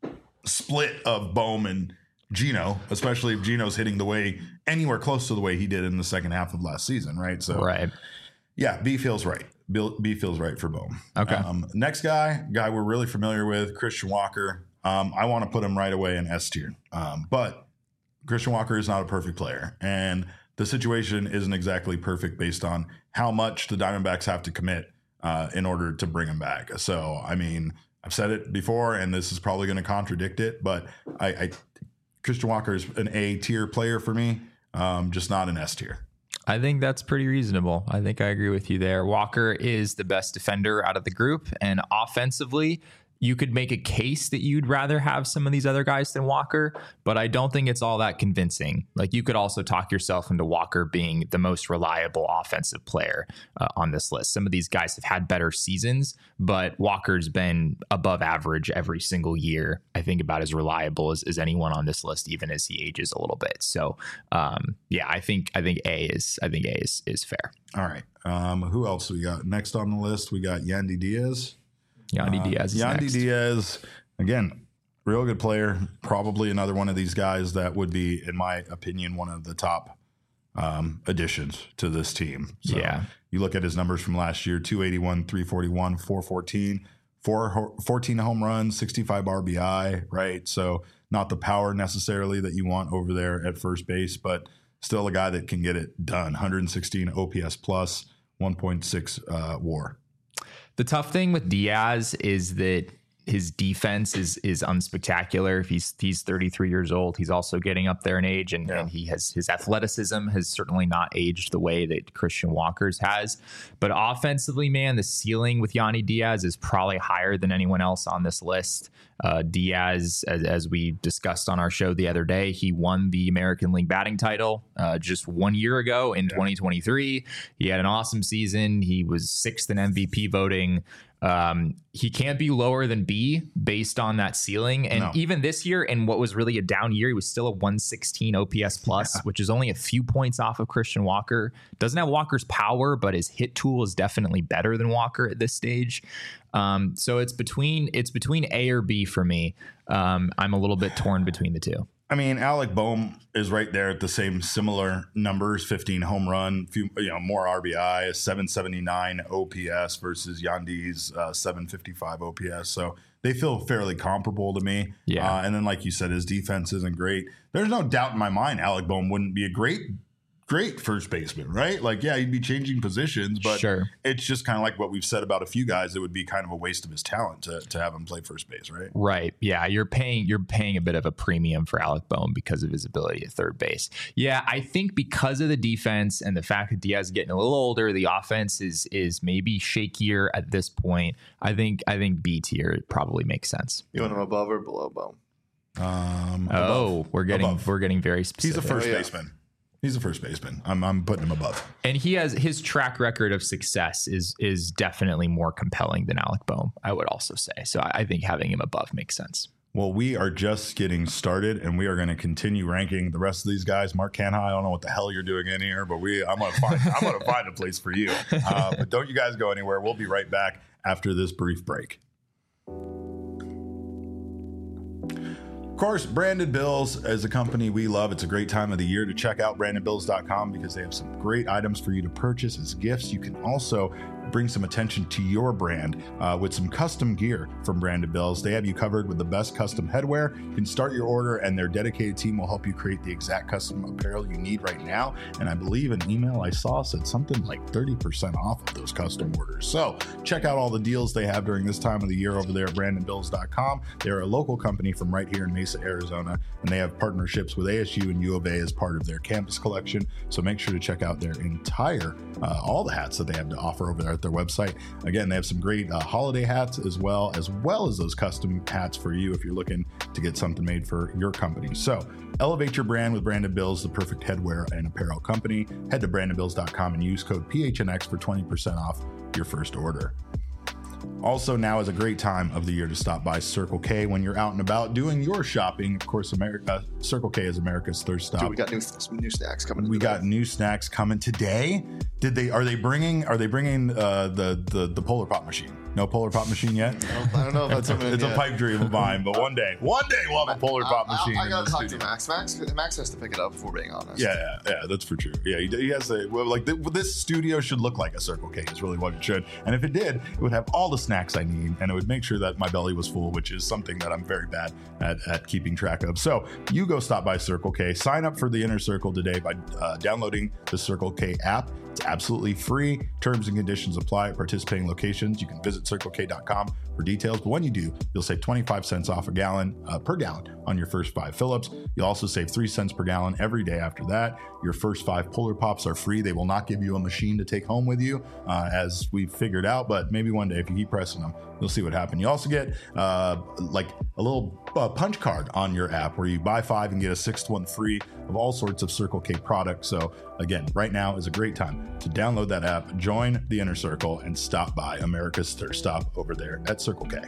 split of Bohm and Gino, especially if Gino's hitting the way anywhere close to the way he did in the second half of last season, right? So, right. Yeah, B feels right. B feels right for Bohm. Okay. Um, next guy, guy we're really familiar with, Christian Walker. Um, I want to put him right away in S tier, um, but Christian Walker is not a perfect player, and the situation isn't exactly perfect based on how much the Diamondbacks have to commit uh, in order to bring him back. So, I mean, I've said it before, and this is probably going to contradict it, but I, I Christian Walker is an A tier player for me, um, just not an S tier. I think that's pretty reasonable. I think I agree with you there. Walker is the best defender out of the group, and offensively, you could make a case that you'd rather have some of these other guys than Walker, but I don't think it's all that convincing. Like, you could also talk yourself into Walker being the most reliable offensive player uh, on this list. Some of these guys have had better seasons, but Walker's been above average every single year. I think about as reliable as, as anyone on this list, even as he ages a little bit. So, um, yeah, I think I think A is I think A is is fair. All right. Um, who else we got next on the list? We got Yandy Diaz. Yandy uh, Diaz is Yandy next. Diaz, again, real good player. Probably another one of these guys that would be, in my opinion, one of the top um, additions to this team. So yeah. You look at his numbers from last year, two eighty-one, three forty-one, four fourteen, four, fourteen home runs, sixty-five R B I, right? So not the power necessarily that you want over there at first base, but still a guy that can get it done. one sixteen O P S plus, one point six uh, W A R. The tough thing with Diaz is that his defense is is unspectacular. If he's he's thirty-three years old, he's also getting up there in age, and, yeah. and he has his athleticism has certainly not aged the way that Christian Walker's has. But offensively, man, the ceiling with Yandy Diaz is probably higher than anyone else on this list. Uh, Diaz, as, as we discussed on our show the other day, he won the American League batting title uh, just one year ago in yeah. twenty twenty-three. He had an awesome season. He was sixth in M V P voting. Um, he can't be lower than B based on that ceiling. And no. even this year, in what was really a down year, he was still a one sixteen O P S plus, yeah. which is only a few points off of Christian Walker. Doesn't have Walker's power, but his hit tool is definitely better than Walker at this stage. Um, so it's between it's between A or B for me. Um, I'm a little bit torn between the two. I mean, Alec Boehm is right there at the same similar numbers, fifteen home run, few, you know, more R B I, a seven seventy-nine O P S versus Yandy's uh, seven fifty-five O P S. So they feel fairly comparable to me. Yeah. Uh, and then, like you said, his defense isn't great. There's no doubt in my mind Alec Boehm wouldn't be a great Great first baseman, right? Like, yeah, he'd be changing positions, but Sure. it's just kind of like what we've said about a few guys. It would be kind of a waste of his talent to, to have him play first base, right? Right. Yeah. You're paying you're paying a bit of a premium for Alec Boehm because of his ability at third base. Yeah, I think because of the defense and the fact that Diaz is getting a little older, the offense is is maybe shakier at this point. I think I think B tier probably makes sense. You want him above or below Boehm? Um, Oh, above. we're getting Above. we're getting very specific. He's a first Oh, yeah. baseman. He's a first baseman. I'm I'm putting him above. And he has his track record of success is is definitely more compelling than Alec Boehm, I would also say. So I, I think having him above makes sense. Well, we are just getting started, and we are going to continue ranking the rest of these guys. Mark Canha, I don't know what the hell you're doing in here, but we I'm going to find I'm going to find a place for you. Uh, but don't you guys go anywhere. We'll be right back after this brief break. Of course, Branded Bills is a company we love. It's a great time of the year to check out branded bills dot com because they have some great items for you to purchase as gifts. You can also bring some attention to your brand uh, with some custom gear from Branded Bills. They have you covered with the best custom headwear. You can start your order and their dedicated team will help you create the exact custom apparel you need right now. And I believe an email I saw said something like thirty percent off of those custom orders. So check out all the deals they have during this time of the year over there at branded bills dot com. They're a local company from right here in Mesa, Arizona, and they have partnerships with A S U and U of A as part of their campus collection. So make sure to check out their entire, uh, all the hats that they have to offer over there at their website. Again, they have some great uh, holiday hats as well, as well as those custom hats for you if you're looking to get something made for your company. So elevate your brand with Branded Bills, the perfect headwear and apparel company. Head to branded bills dot com and use code P H N X for twenty percent off your first order. Also, now is a great time of the year to stop by Circle K when you're out and about doing your shopping. Of course, America, Circle K is America's thirst stop. Dude, we got new some new snacks coming. We today. got new snacks coming today. Did they? Are they bringing? Are they bringing uh, the the the Polar Pop machine? No Polar Pop machine yet. I don't know if that's something. It's a pipe dream of mine, but one day, one day we'll have a Polar Pop I, machine. I, I in gotta the talk to studio. Max. Max. Max has to pick it up. If we're being honest. Yeah, yeah, yeah, that's for true. Yeah, he, he has a well, like th- this studio should look like a Circle K is really what it should. And if it did, it would have all the snacks I need, and it would make sure that my belly was full, which is something that I'm very bad at, at keeping track of. So you go stop by Circle K, sign up for the Inner Circle today by uh, downloading the Circle K app. It's absolutely free. Terms and conditions apply at participating locations. You can visit circle k dot com for details. But when you do, you'll save twenty-five cents off a gallon uh, per gallon on your first five fill-ups. You'll also save three cents per gallon every day after that. Your first five Polar Pops are free. They will not give you a machine to take home with you, uh, as we've figured out. But maybe one day, if you keep pressing them, you'll see what happens. You also get uh, like a little uh, punch card on your app where you buy five and get a sixth one free of all sorts of Circle K products. So again, right now is a great time to download that app, join the Inner Circle, and stop by America's Thirst Stop over there at Circle K.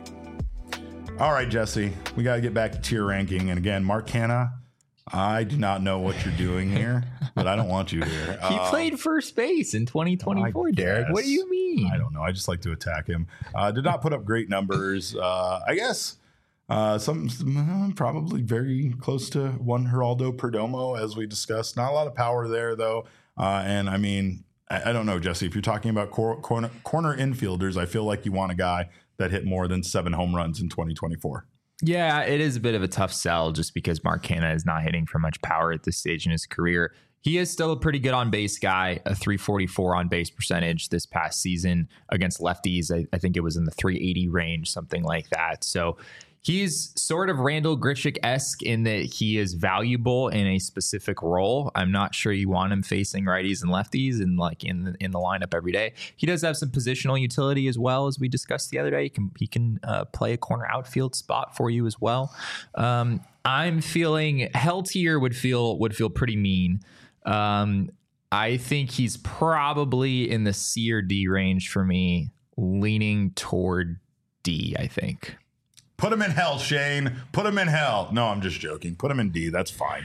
All right, Jesse, we got to get back to tier ranking. And again, Mark Canha, I do not know what you're doing here, but I don't want you here. He Uh, played first base in twenty twenty-four, I Derek. What do you guess. mean? I don't know. I just like to attack him. Uh, did not put up great numbers. Uh, I guess uh, some, some probably very close to one Geraldo Perdomo, as we discussed. Not a lot of power there, though. Uh, and I mean, I, I don't know, Jesse. If you're talking about cor- corner corner infielders, I feel like you want a guy that hit more than seven home runs in twenty twenty-four. Yeah, it is a bit of a tough sell just because Mark Canha is not hitting for much power at this stage in his career. He is still a pretty good on base guy, a three forty-four on base percentage this past season against lefties. I, I think it was in the three eighty range, something like that. So he's sort of Randall Grichuk-esque in that he is valuable in a specific role. I'm not sure you want him facing righties and lefties and like in the, in the lineup every day. He does have some positional utility as well, as we discussed the other day. He can he can uh, play a corner outfield spot for you as well. Um, I'm feeling hell tier would feel would feel pretty mean. Um, I think he's probably in the C or D range for me, leaning toward D, I think. Put him in hell, Shane. Put him in hell. No, I'm just joking. Put him in D. That's fine.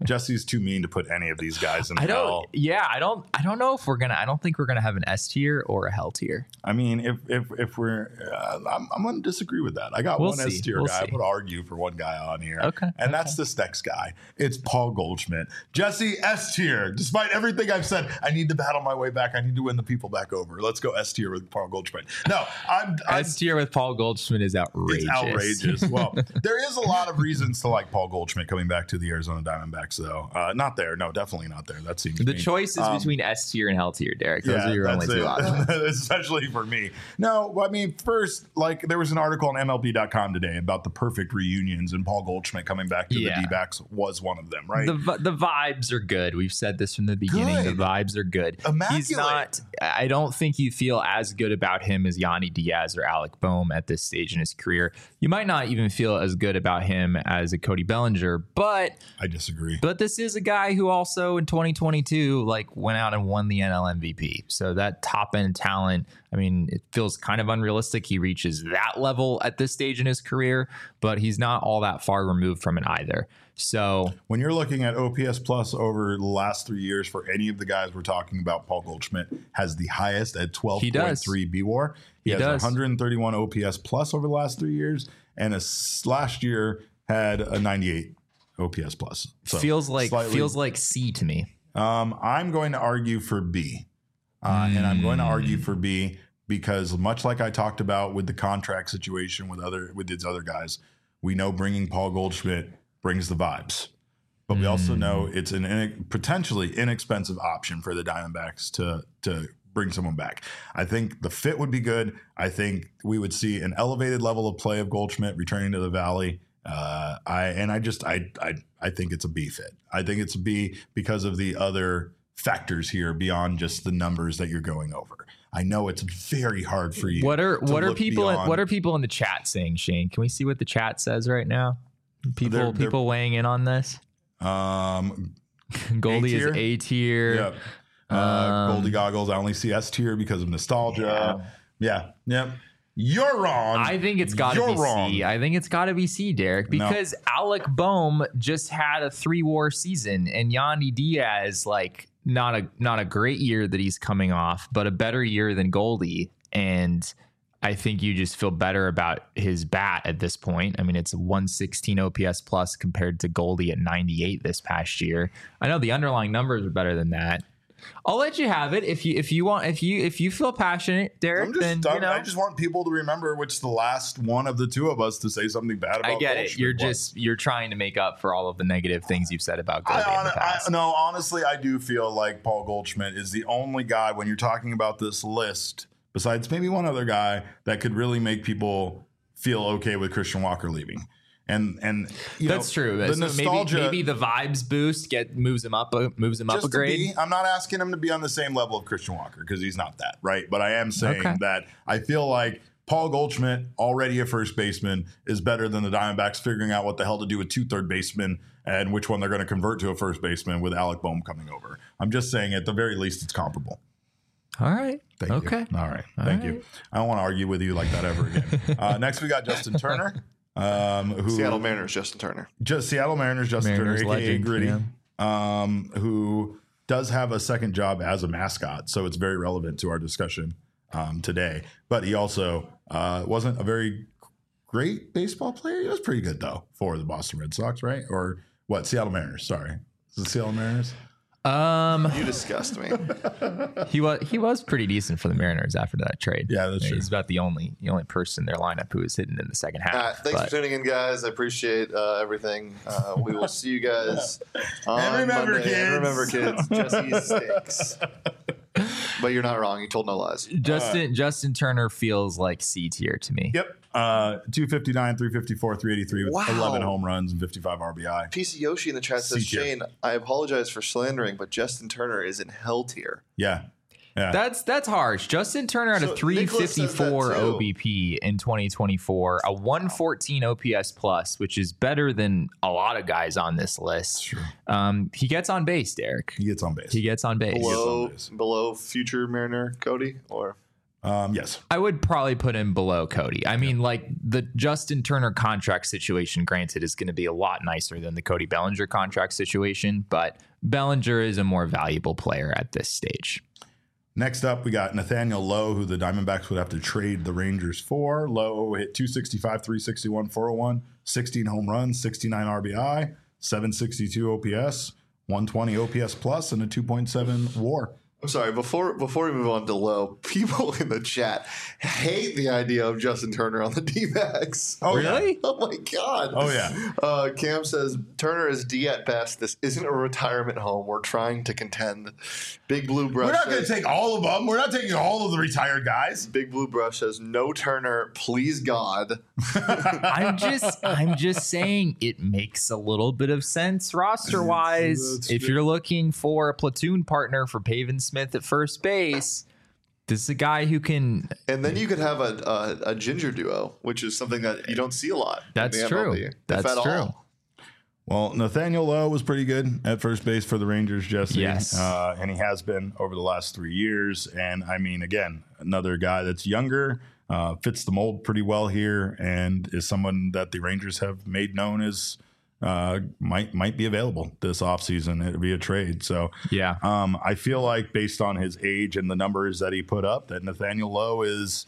Jesse's too mean to put any of these guys in I don't. hell. Yeah, I don't. I don't know if we're gonna. I don't think we're gonna have an S tier or a hell tier. I mean, if if if we're, uh, I'm, I'm going to disagree with that. I got We'll one see. S tier We'll guy. see. I would argue for one guy on here. Okay, and okay. that's this next guy. It's Paul Goldschmidt. Jesse S tier. Despite everything I've said, I need to battle my way back. I need to win the people back over. Let's go S tier with Paul Goldschmidt. No, I'm, I'm S tier with Paul Goldschmidt is outrageous. It's outrageous. Well, there is a lot of reasons to like Paul Goldschmidt coming back to the Arizona Diamondbacks, though. Uh, not there. No, definitely not there. That seems The mean. choice is Um, between S tier and hell tier, Derek. Those are your only that's two it. options. Especially for me. No, well, I mean, first, like, there was an article on M L B dot com today about the perfect reunions, and Paul Goldschmidt coming back to Yeah. the D-backs was one of them, right? The vi- the vibes are good. We've said this from the beginning. Good. The vibes are good. Immaculate. He's not. I don't think you feel as good about him as Yanni Diaz or Alec Boehm at this stage in his career. You might not even feel as good about him as a Cody Bellinger, but I disagree. but this is a guy who also in twenty twenty-two like went out and won the N L M V P. So that top end talent, I mean, it feels kind of unrealistic he reaches that level at this stage in his career, but he's not all that far removed from it either. So When you're looking at O P S plus over the last three years for any of the guys we're talking about, Paul Goldschmidt has the highest at twelve point three B W A R. He, He has does. one hundred thirty-one O P S plus over the last three years, and a, last year had a ninety-eight O P S plus. So feels like slightly- feels like C to me. Um, I'm going to argue for B, uh, and I'm going to argue for B because much like I talked about with the contract situation with other with these other guys, we know bringing Paul Goldschmidt brings the vibes, but we also know it's an in, potentially inexpensive option for the Diamondbacks to to bring someone back. I think the fit would be good. I think we would see an elevated level of play of Goldschmidt returning to the Valley. Uh, I and I just I I I think it's a B fit. I think it's a B because of the other factors here beyond just the numbers that you're going over. I know it's very hard for you. What are to what are look people in, beyond- what are people in the chat saying, Shane? Can we see what the chat says right now? People They're- they're- people weighing in on this. um Goldie is A-tier? A tier. Yep. Uh, Um, Goldie goggles. I only see S tier because of nostalgia. Yeah. Yep. You're wrong. I think it's got to You're be wrong. C. I think it's got to be C, Derek, No. because Alec Boehm just had a three-war season, and Yanni Diaz, like, not a not a great year that he's coming off, but a better year than Goldie. And I think you just feel better about his bat at this point. I mean, it's one sixteen O P S plus compared to Goldie at ninety-eight this past year. I know the underlying numbers are better than that. I'll let you have it if you if you want if you if you feel passionate, Derek. I'm just, then I'm- you know I just want people to remember which the last one of the two of us to say something bad about. I get it. Goldschmidt You're was. just you're trying to make up for all of the negative things you've said about I, Goldie in hon- the I, past. no, honestly, I do feel like Paul Goldschmidt is the only guy when you're talking about this list, besides maybe one other guy, that could really make people feel okay with Christian Walker leaving. And and you That's know, true. The So nostalgia, maybe maybe the vibes boost get moves him up a, moves him up just a to grade. be, I'm not asking him to be on the same level of Christian Walker because he's not that, right? But I am saying Okay. that I feel like Paul Goldschmidt, already a first baseman, is better than the Diamondbacks figuring out what the hell to do with two third basemen and which one they're going to convert to a first baseman with Alec Boehm coming over. I'm just saying at the very least it's comparable. All right. Thank okay. you. All right. All Thank right. you. I don't want to argue with you like that ever again. uh, next, we got Justin Turner, um, who Seattle Mariners, Justin Turner. just Seattle Mariners, Justin Mariners Turner, aka legend, Gritty, yeah. um, who does have a second job as a mascot, so it's very relevant to our discussion um, today. But he also uh, wasn't a very great baseball player. He was pretty good though for the Boston Red Sox, right? Or what? Seattle Mariners. Sorry, is it Seattle Mariners? Um, You disgust me. he was he was pretty decent for the Mariners after that trade. Yeah, that's true. He's about the only the only person in their lineup who was hitting in the second half. Uh, thanks but- for tuning in, guys. I appreciate uh, everything. Uh, we will see you guys on And remember, Monday. And remember, kids. kids, Jesse stinks. But you're not wrong. You told no lies. Justin Justin Turner feels like C tier to me. Yep. Uh, two fifty-nine, three fifty-four, three eighty-three with Wow. eleven home runs and fifty-five R B I. P C Yoshi in the chat says, C tier. Shane, I apologize for slandering, but Justin Turner is in hell tier. Yeah. Yeah. That's that's harsh. Justin Turner had So a three fifty-four Nicholas says that too. O B P in twenty twenty-four, a one fourteen O P S plus, which is better than a lot of guys on this list. Sure. Um, he gets on base, Derek. He gets on base. He gets on base. Below- Below, base. below future Mariner Cody, or Um, yes. I would probably put him below Cody. I mean, like the Justin Turner contract situation, granted, is going to be a lot nicer than the Cody Bellinger contract situation, but Bellinger is a more valuable player at this stage. Next up, we got Nathaniel Lowe, who the Diamondbacks would have to trade the Rangers for. Lowe hit two sixty-five, three sixty-one, four oh one, sixteen home runs, sixty-nine R B I, seven sixty-two O P S, one twenty O P S plus, and a two point seven WAR. I'm sorry, before before we move on to Lowe, people in the chat hate the idea of Justin Turner on the D-backs. Oh, really? Yeah. Oh, my God. Oh, yeah. Uh, Cam says, Turner is D at best. This isn't a retirement home. We're trying to contend. Big Blue Brush We're not going to says, take all of them. We're not taking all of the retired guys. Big Blue Brush says, no Turner, please God. I'm just I'm just saying it makes a little bit of sense roster wise. That's If good. you're looking for a platoon partner for Pavin Smith at first base, this is a guy who can. And then you could have a, a, a ginger duo, which is something that you don't see a lot. in That's the true. M L B, if That's at true. all. Well, Nathaniel Lowe was pretty good at first base for the Rangers, Jesse. Yes. Uh, and he has been over the last three years. And I mean, again, another guy that's younger, uh, fits the mold pretty well here, and is someone that the Rangers have made known as uh, might might be available this offseason. It'll be a trade. So Yeah. um, I feel like based on his age and the numbers that he put up, that Nathaniel Lowe is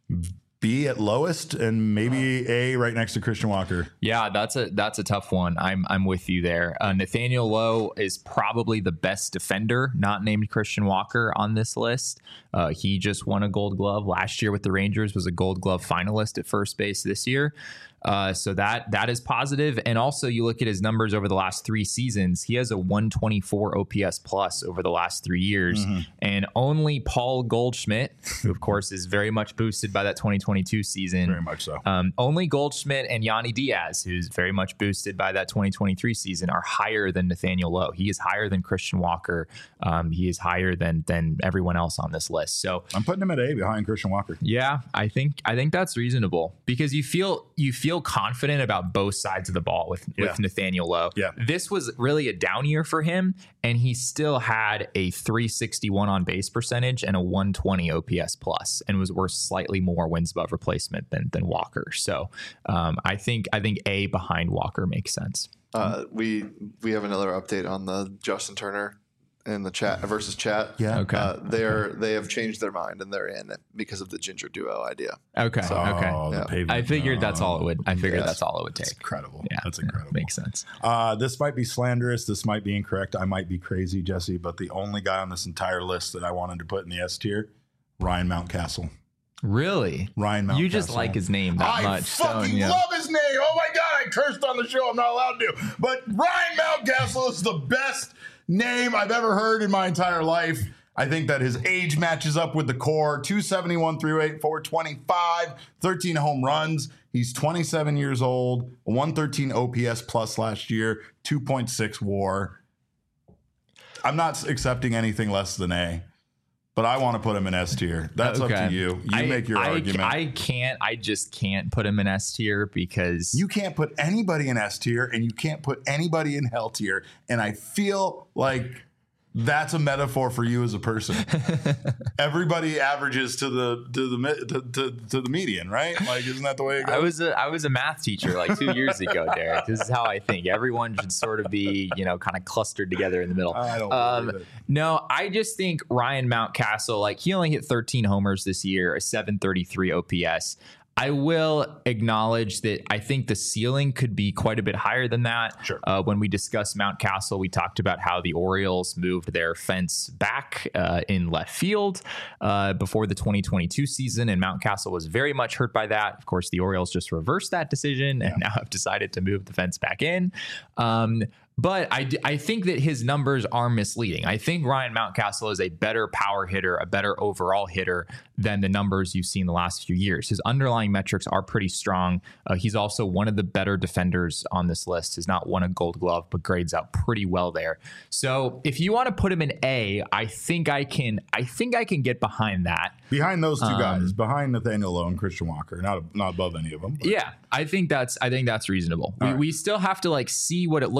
B at lowest and maybe A right next to Christian Walker. Yeah, that's a that's a tough one. I'm I'm with you there. Uh, Nathaniel Lowe is probably the best defender, not named Christian Walker, on this list. Uh, he just won a Gold Glove last year with the Rangers, was a Gold Glove finalist at first base this year. Uh, so that that is positive. And also, you look at his numbers over the last three seasons. He has a one twenty-four O P S plus over the last three years, Mm-hmm. and only Paul Goldschmidt, who of course is very much boosted by that twenty twenty-two season, Very much so. um, only Goldschmidt and Yanni Diaz, who's very much boosted by that twenty twenty-three season, are higher than Nathaniel Lowe. He is higher than Christian Walker. Um, he is higher than than everyone else on this list. So I'm putting him at A behind Christian Walker. yeah, I think I think that's reasonable because you feel you feel confident about both sides of the ball with, Yeah. with Nathaniel Lowe. Yeah. This was really a down year for him, and he still had a three sixty-one on base percentage and a one twenty O P S plus, and was worth slightly more wins above replacement than than Walker. So um, I think I think A behind Walker makes sense. Uh, we we have another update on the Justin Turner in the chat versus chat. Yeah. Okay. Uh, they're they have changed their mind and they're in it because of the ginger duo idea. Okay. Oh, okay. the Yeah. pavement. I figured that's all it would. I figured Yes. that's all it would That's take. incredible. Yeah, That's yeah, incredible. makes sense. Uh, this might be slanderous. This might be incorrect. I might be crazy, Jesse, but the only guy on this entire list that I wanted to put in the S tier, Ryan Mountcastle. Really? Ryan Mountcastle. You just like his name that I much. fucking don't you? love his name. Oh my God, I cursed on the show. I'm not allowed to. But Ryan Mountcastle is the best name I've ever heard in my entire life. I think that his age matches up with the core. two seventy-one, three oh eight, four twenty-five, thirteen home runs. He's twenty-seven years old, one thirteen O P S plus last year, two point six WAR. I'm not accepting anything less than A, but I want to put him in S tier. That's up Okay. to you. You I, make your I, argument. I can't. I just can't put him in S tier because You can't put anybody in S tier and you can't put anybody in hell tier. And I feel like that's a metaphor for you as a person. Everybody averages to the to the mi- to, to, to the median, right? Like, isn't that the way it goes? I was a I was a math teacher like two years ago, Derek. This is how I think. Everyone should sort of be, you know, kind of clustered together in the middle. I don't Um, believe it. no, I just think Ryan Mountcastle, like he only hit thirteen homers this year, a seven thirty-three O P S. I will acknowledge that I think the ceiling could be quite a bit higher than that. Sure. Uh, when we discussed Mountcastle, we talked about how the Orioles moved their fence back uh, in left field uh, before the twenty twenty-two season, and Mountcastle was very much hurt by that. Of course, the Orioles just reversed that decision and now have decided to move the fence back in. Um, But I, d- I think that his numbers are misleading. I think Ryan Mountcastle is a better power hitter, a better overall hitter than the numbers you've seen the last few years. His underlying metrics are pretty strong. Uh, he's also one of the better defenders on this list. He's not won a Gold Glove, but grades out pretty well there. So if you want to put him in A, I think I can. I think I can get behind that. Behind those two um, guys, behind Nathaniel Lowe and Christian Walker, not not above any of them. but- Yeah, I think that's I think that's reasonable. We, right. we still have to like see what it looks like for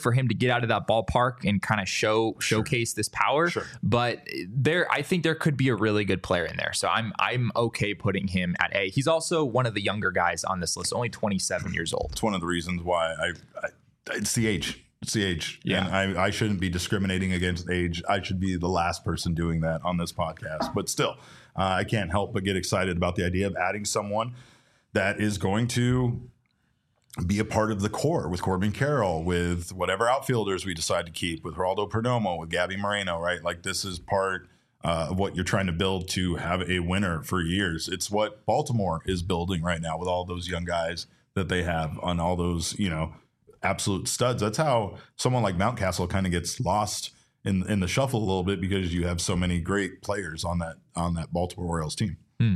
for him to get out of that ballpark and kind of show showcase this power. Sure. But there, I think there could be a really good player in there. So I'm I'm okay putting him at A. He's also one of the younger guys on this list, only twenty-seven years old. It's one of the reasons why I, I it's the age. It's the age. Yeah. And I, I shouldn't be discriminating against age. I should be the last person doing that on this podcast. But still, uh, I can't help but get excited about the idea of adding someone that is going to be a part of the core with Corbin Carroll, with whatever outfielders we decide to keep, with Geraldo Perdomo, with Gabby Moreno, right? Like this is part uh, of what you're trying to build to have a winner for years. It's what Baltimore is building right now with all those young guys that they have on all those, you know, absolute studs. That's how someone like Mountcastle kind of gets lost in in the shuffle a little bit because you have so many great players on that on that Baltimore Orioles team. Hmm.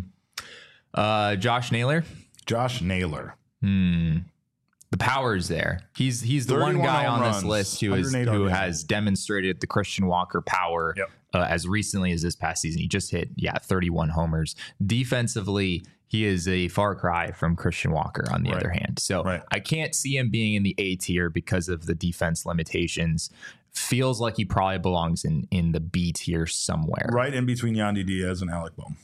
Uh, Josh Naylor. Josh Naylor. Hmm. The power is there. He's he's the one guy on this list who is who has demonstrated the Christian Walker power yep. uh, as recently as this past season. He just hit yeah thirty-one homers. Defensively, he is a far cry from Christian Walker on the right. other hand. So right. I can't see him being in the A tier because of the defense limitations. Feels like he probably belongs in in the B tier somewhere. Right in between Yandy Diaz and Alec Bohm.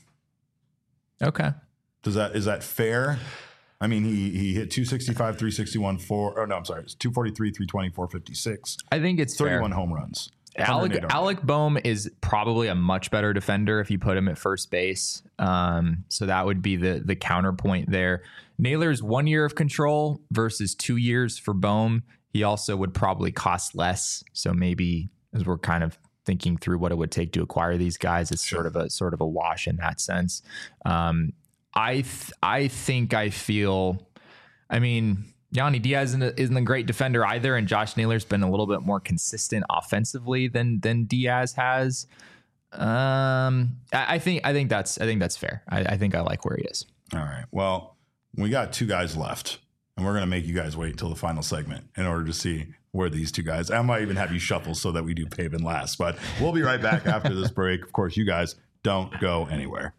Okay. Does that is that fair? I mean, he he hit two sixty-five, three sixty-one, four. Oh no, I'm sorry, it's two forty-three, three twenty, four fifty-six. I think it's thirty-one fair. home runs. Alec Alec Bohm is probably a much better defender if you put him at first base. Um, so that would be the the counterpoint there. Naylor's one year of control versus two years for Bohm. He also would probably cost less. So maybe as we're kind of thinking through what it would take to acquire these guys, it's sure. sort of a sort of a wash in that sense. Um, I th- I think I feel, I mean, Yandy Diaz isn't a, isn't a great defender either, and Josh Naylor's been a little bit more consistent offensively than than Diaz has. Um, I, I think I think that's I think that's fair. I, I think I like where he is. All right. Well, we got two guys left, and we're gonna make you guys wait until the final segment in order to see where these two guys. I might even have you shuffle so that we do Pavin last, but we'll be right back after this break. Of course, you guys don't go anywhere.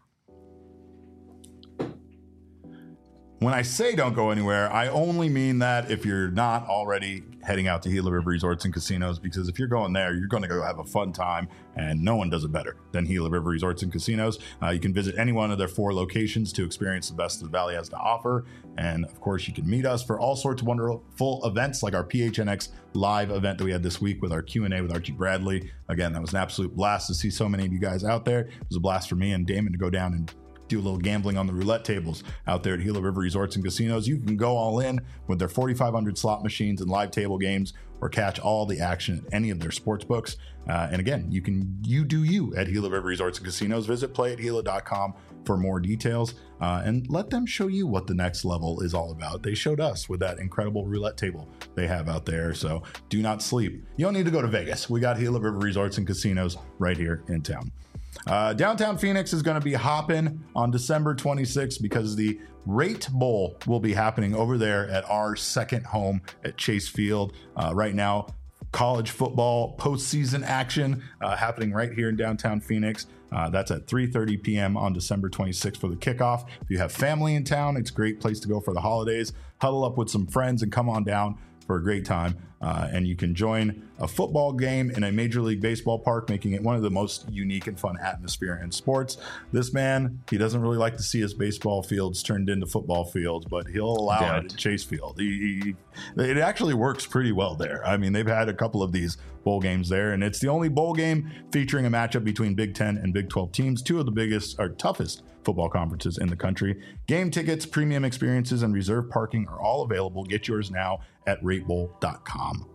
When I say don't go anywhere, I only mean that if you're not already heading out to Gila River Resorts and Casinos, because if you're going there, you're going to go have a fun time, and no one does it better than Gila River Resorts and Casinos. Uh, you can visit any one of their four locations to experience the best the Valley has to offer. And of course, you can meet us for all sorts of wonderful events like our P H N X live event that we had this week with our Q and A with Archie Bradley. Again, that was an absolute blast to see so many of you guys out there. It was a blast for me and Damon to go down and do a little gambling on the roulette tables out there at Gila River Resorts and Casinos. You can go all in with their forty-five hundred slot machines and live table games, or catch all the action at any of their sports books. Uh, and again, you can you do you at Gila River Resorts and Casinos. Visit play at gila dot com for more details, uh, and let them show you what the next level is all about. They showed us with that incredible roulette table they have out there. So do not sleep. You don't need to go to Vegas. We got Gila River Resorts and Casinos right here in town. Uh, downtown Phoenix is going to be hopping on December twenty-sixth because the Rate Bowl will be happening over there at our second home at Chase Field. Uh, right now, college football postseason action uh, happening right here in downtown Phoenix. Uh, that's at three thirty p.m. on December twenty-sixth for the kickoff. If you have family in town, it's a great place to go for the holidays. Huddle up with some friends and come on down for a great time. Uh, and you can join a football game in a Major League Baseball park, making it one of the most unique and fun atmosphere in sports. This man, he doesn't really like to see his baseball fields turned into football fields, but he'll allow Damn it it. at Chase Field. He, he, it actually works pretty well there. I mean, they've had a couple of these bowl games there, and it's the only bowl game featuring a matchup between Big Ten and Big twelve teams, two of the biggest or toughest football conferences in the country. Game tickets, premium experiences, and reserved parking are all available. Get yours now at rate bowl dot com.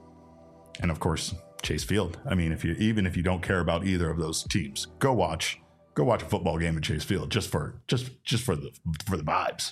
And of course, Chase Field. I mean, if you even if you don't care about either of those teams, go watch go watch a football game at Chase Field just for just just for the for the vibes.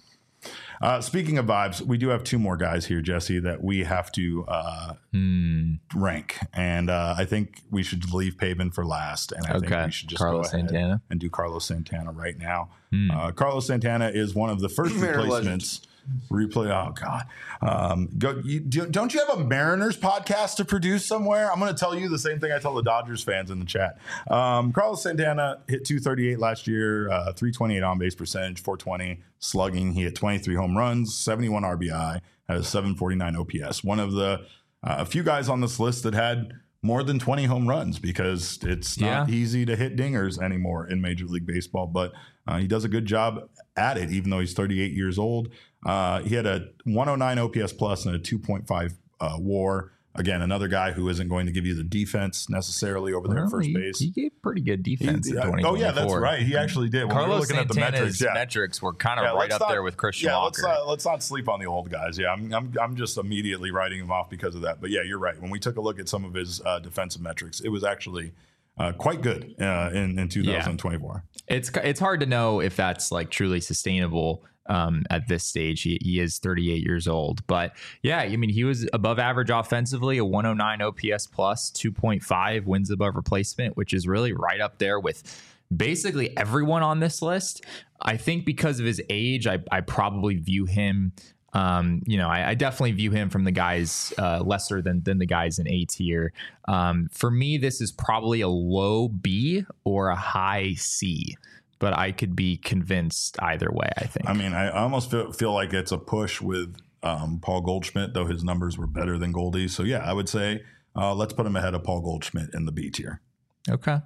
Uh, speaking of vibes, we do have two more guys here, Jesse, that we have to uh, Hmm. rank, and uh, I think we should leave Pavin for last. And I Okay. think we should just Carlos go ahead Santana. and do Carlos Santana right now. Hmm. Uh, Carlos Santana is one of the first Mariner replacements. Replay. Oh God. Um, go. You, do, don't you have a Mariners podcast to produce somewhere? I'm going to tell you the same thing I tell the Dodgers fans in the chat. Um, Carlos Santana hit two thirty-eight last year, uh, three twenty-eight on base percentage, four twenty slugging. He hit twenty-three home runs, seventy-one R B I, had a seven forty-nine O P S. One of the uh, a few guys on this list that had more than twenty home runs because it's not Yeah. easy to hit dingers anymore in Major League Baseball. But uh, he does a good job at it, even though he's thirty-eight years old. Uh, he had a one oh nine O P S plus and a two point five uh, WAR. Again, another guy who isn't going to give you the defense necessarily over there Well, at first he, base. He gave pretty good defense He- in yeah. twenty twenty-four. Oh, yeah, that's right. He actually did. When we were Carlos looking at the Santana's metrics, yeah. metrics were kind of Yeah, right let's up not- there with Christian yeah, Walker. Let's not, let's not sleep on the old guys. Yeah, I'm, I'm I'm just immediately writing him off because of that. But yeah, you're right. When we took a look at some of his uh, defensive metrics, it was actually uh, quite good uh, in in twenty twenty-four. It's it's hard to know if that's like truly sustainable um, at this stage. He, he is thirty-eight years old, but yeah, I mean, he was above average offensively, a one oh nine O P S plus, two point five wins above replacement, which is really right up there with basically everyone on this list. I think because of his age, I, I probably view him. Um, you know, I, I definitely view him from the guys uh, lesser than than the guys in A tier. Um, for me, this is probably a low B or a high C, but I could be convinced either way, I think. I mean, I almost feel, feel like it's a push with um, Paul Goldschmidt, though his numbers were better than Goldie. So yeah, I would say uh, let's put him ahead of Paul Goldschmidt in the B tier. Okay.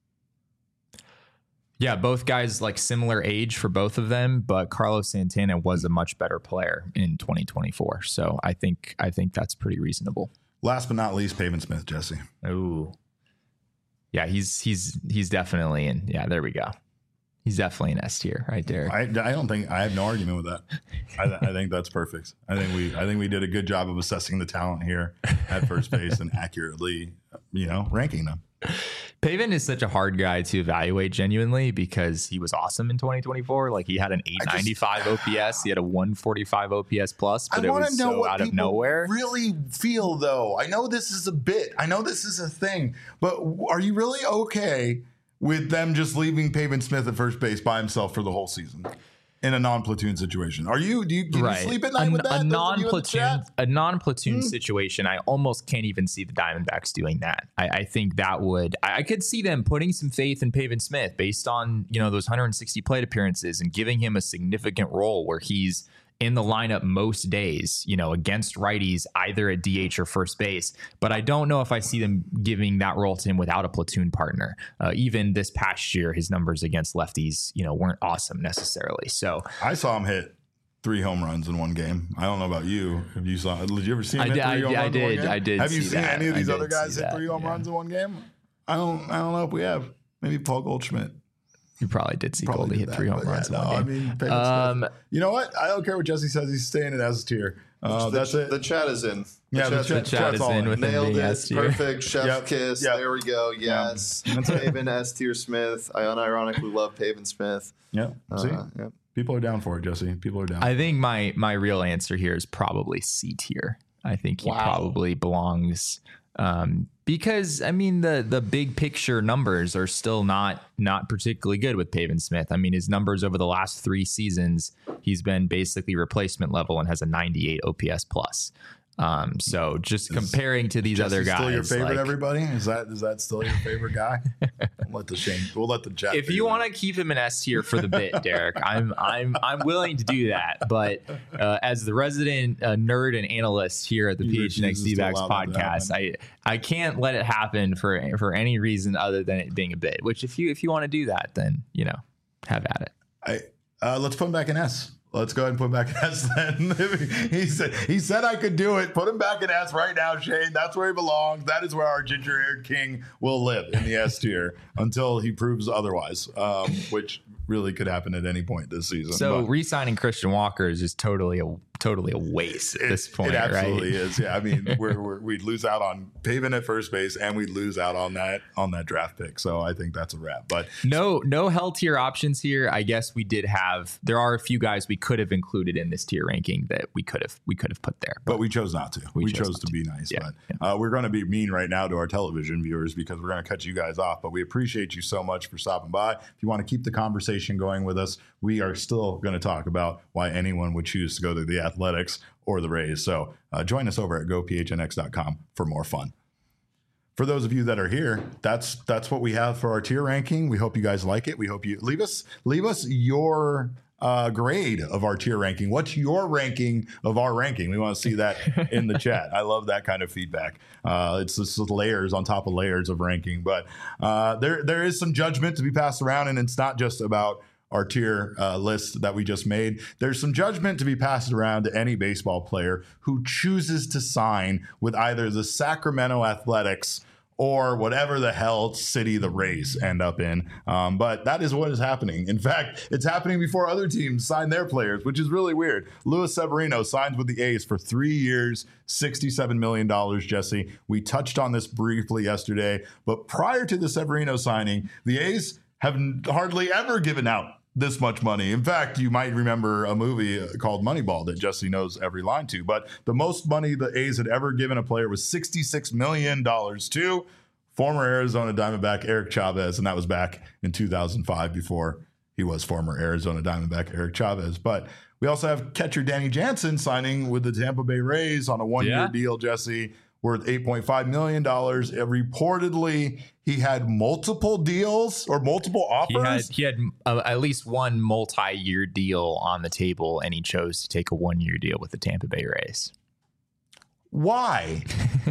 Yeah, both guys like similar age for both of them, but Carlos Santana was a much better player in twenty twenty-four. So I think I think that's pretty reasonable. Last but not least, Pavin Smith, Jesse. Ooh. Yeah, he's he's he's definitely in. Yeah, there we go. He's definitely an S tier, right there. I, I don't think I have no argument with that. I, I think that's perfect. I think we I think we did a good job of assessing the talent here at first base and accurately, you know, ranking them. Pavin is such a hard guy to evaluate genuinely because he was awesome in twenty twenty-four. Like he had an eight ninety-five O P S, he had a one forty-five O P S plus, but I it want was to know so what out of people nowhere. really feel, though. I know this is a bit. I know this is a thing, but are you really okay with them just leaving Pavin Smith at first base by himself for the whole season in a non-platoon situation? Are you? Do you, can you sleep at night a, with that? A Those of you in the non-platoon, chat? a non-platoon Hmm. situation. I almost can't even see the Diamondbacks doing that. I, I think that would. I, I could see them putting some faith in Pavin Smith based on you know those one hundred sixty plate appearances and giving him a significant role where he's in the lineup most days, you know, against righties, either at D H or first base. But I don't know if I see them giving that role to him without a platoon partner. Uh, even this past year, his numbers against lefties, you know, weren't awesome necessarily. So I saw him hit three home runs in one game. I don't know about you. Have you saw? Did you ever see him I hit did- three I- home I runs in one did- game? I did Have you see seen that. any of these I other did guys see hit that, three home yeah. runs in one game? I don't. I don't know if we have. Maybe Paul Goldschmidt. you probably did see Probably Goldie did hit that, three home but yeah, runs in no, one game. I mean, Pavin Um, Smith. You know what? I don't care what Jesse says. He's staying in S tier. Uh, the, that's it. The chat is in. The Yeah, the chat's chat- in. chat chat's is all in in. with him Nailed being it. S tier. Perfect. Chef Yep. kiss. Yep. There we go. Yes. That's it. Pavin S tier Smith. I unironically love Pavin Smith. Yeah. See, Uh, yeah. people are down for it, Jesse. People are down. I think my my real answer here is probably C tier. I think he Wow. probably belongs um, because I mean the the big picture numbers are still not not particularly good with Pavin Smith. I mean his numbers over the last three seasons, he's been basically replacement level and has a ninety-eight O P S plus. Um, so just comparing to these Jesse other guys, still your favorite? like, Everybody is that is that still your favorite guy? We'll let the Shane. We'll let the chat. if you want to keep him an S tier for the bit, Derek, I'm I'm I'm willing to do that. But uh, as the resident uh, nerd and analyst here at the He P H N X refuses to D-backs allow that to podcast, I I can't let it happen for for any reason other than it being a bit. Which if you if you want to do that, then you know, have at it. I, uh, let's put him back in S. Let's go ahead and put him back in S then. he said he said I could do it. Put him back in S right now, Shane. That's where he belongs. That is where our ginger-haired king will live, in the S tier, until he proves otherwise, um, which really could happen at any point this season. So But re-signing Christian Walker is just totally a totally a waste at this point, it absolutely right? is. Yeah, I mean, we're, we're, we'd lose out on Pavin at first base, and we'd lose out on that on that draft pick. So I think that's a wrap. But No, no hell tier options here. I guess we did have. There are a few guys we could have included in this tier ranking that we could have we could have put there. But we chose not to. We, We chose, chose to not be nice. Yeah, But uh, we're going to be mean right now to our television viewers because we're going to cut you guys off. But we appreciate you so much for stopping by. If you want to keep the conversation going with us, we are still going to talk about why anyone would choose to go to the Athletics or the Rays. So uh, join us over at go p h n x dot com for more fun. For those of you that are here, that's that's what we have for our tier ranking. We hope you guys like it. We hope you leave us leave us your uh, grade of our tier ranking? What's your ranking of our ranking? We want to see that in the chat. I love that kind of feedback. Uh, it's just layers on top of layers of ranking. But uh, there there is some judgment to be passed around, and it's not just about our tier uh, list that we just made. There's some judgment to be passed around to any baseball player who chooses to sign with either the Sacramento Athletics or whatever the hell city the Rays end up in. Um, but that is what is happening. In fact, it's happening before other teams sign their players, which is really weird. Luis Severino signs with the A's for three years, sixty-seven million dollars, Jesse. We touched on this briefly yesterday, but prior to the Severino signing, the A's have hardly ever given out this much money. In fact, you might remember a movie called Moneyball that Jesse knows every line to, but the most money the A's had ever given a player was sixty-six million dollars to former Arizona Diamondback Eric Chavez, and that was back in two thousand five before he was former Arizona Diamondback Eric Chavez. But we also have catcher Danny Jansen signing with the Tampa Bay Rays on a one-year Yeah. deal, Jesse, worth eight point five million dollars. It reportedly, he had multiple deals or multiple He had offers. he had uh, at least one multi-year deal on the table, and he chose to take a one-year deal with the Tampa Bay Rays. Why?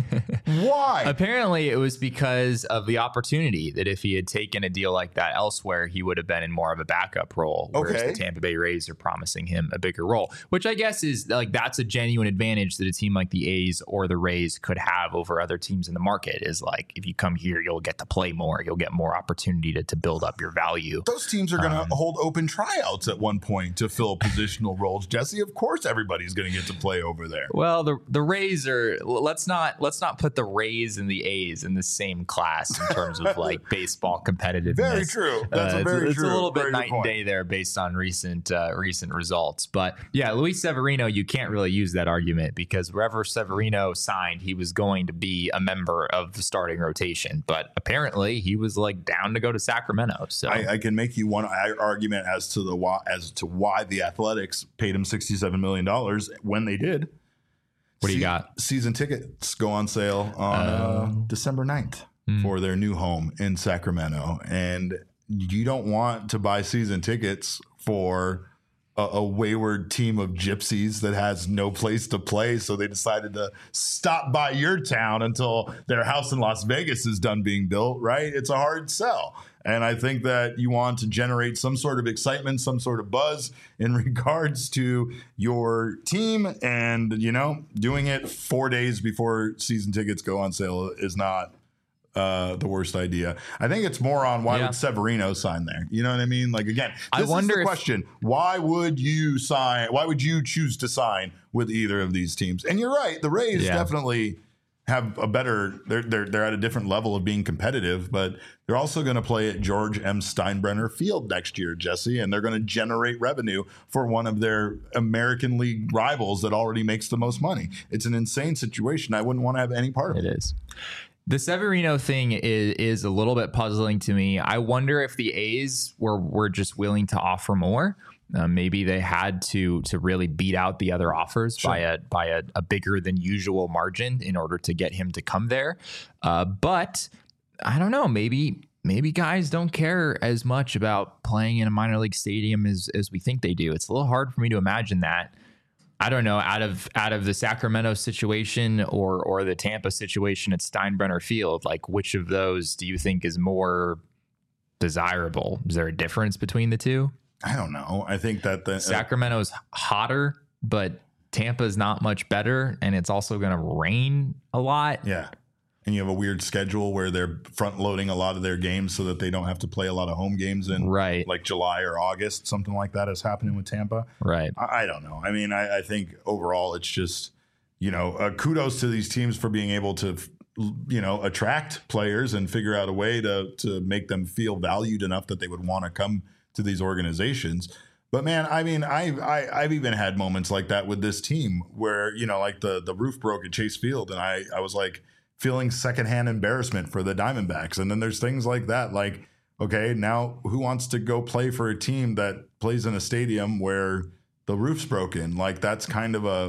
Why? Apparently, it was because of the opportunity that if he had taken a deal like that elsewhere, he would have been in more of a backup role. Whereas Okay. the Tampa Bay Rays are promising him a bigger role, which I guess is like that's a genuine advantage that a team like the A's or the Rays could have over other teams in the market. Is like if you come here, you'll get to play more, you'll get more opportunity to, to build up your value. Those teams are going to Um, hold open tryouts at one point to fill positional roles. Jesse, of course, everybody's going to get to play over there. Well, the the Rays are let's not let's not put the Rays and the A's in the same class in terms of like baseball competitiveness. Very true. That's Uh, a it's- very it's, true. a little bit Very good night and point. day there based on recent uh, recent results. But yeah, Luis Severino, you can't really use that argument because wherever Severino signed, he was going to be a member of the starting rotation. But apparently, he was like down to go to Sacramento. So I, I can make you one argument as to the why, as to why the Athletics paid him sixty-seven million dollars when they did. What do you Se- got? Season tickets go on sale on uh, December ninth Hmm. for their new home in Sacramento. And you don't want to buy season tickets for a, a wayward team of gypsies that has no place to play. So they decided to stop by your town until their house in Las Vegas is done being built, right? It's a hard sell. And I think that you want to generate some sort of excitement, some sort of buzz in regards to your team. And, you know, doing it four days before season tickets go on sale is not uh, the worst idea. I think it's more on why Yeah. would Severino sign there? You know what I mean? Like, again, I this wonder is the if- question. Why would you sign? Why would you choose to sign with either of these teams? And you're right. The Rays Yeah. definitely have a better, they're, they're, they're at a different level of being competitive, but they're also going to play at George M. Steinbrenner Field next year, Jesse, and they're going to generate revenue for one of their American League rivals that already makes the most money. It's an insane situation. I wouldn't want to have any part of it. It is. The Severino thing is is a little bit puzzling to me. I wonder if the A's were were just willing to offer more. Uh, maybe they had to to really beat out the other offers Sure. by a by a, a bigger than usual margin in order to get him to come there. Uh, but I don't know. Maybe maybe guys don't care as much about playing in a minor league stadium as as we think they do. It's a little hard for me to imagine that. I don't know, out of out of the Sacramento situation or or the Tampa situation at Steinbrenner Field, like which of those do you think is more desirable? Is there a difference between the two? I don't know. I think that the uh, Sacramento's hotter, but Tampa's not much better, and it's also going to rain a lot. yeah. And you have a weird schedule where they're front loading a lot of their games so that they don't have to play a lot of home games in Right, like July or August, something like that is happening with Tampa. right. I, I don't know. I mean, I, I think overall it's just, you know, uh, kudos to these teams for being able to, you know, attract players and figure out a way to to make them feel valued enough that they would want to come to these organizations. But man, I mean, I, I I've even had moments like that with this team where, you know, like the the roof broke at Chase Field, and I I was like feeling secondhand embarrassment for the Diamondbacks. And then there's things like that, like, okay, now who wants to go play for a team that plays in a stadium where the roof's broken? Like, that's kind of a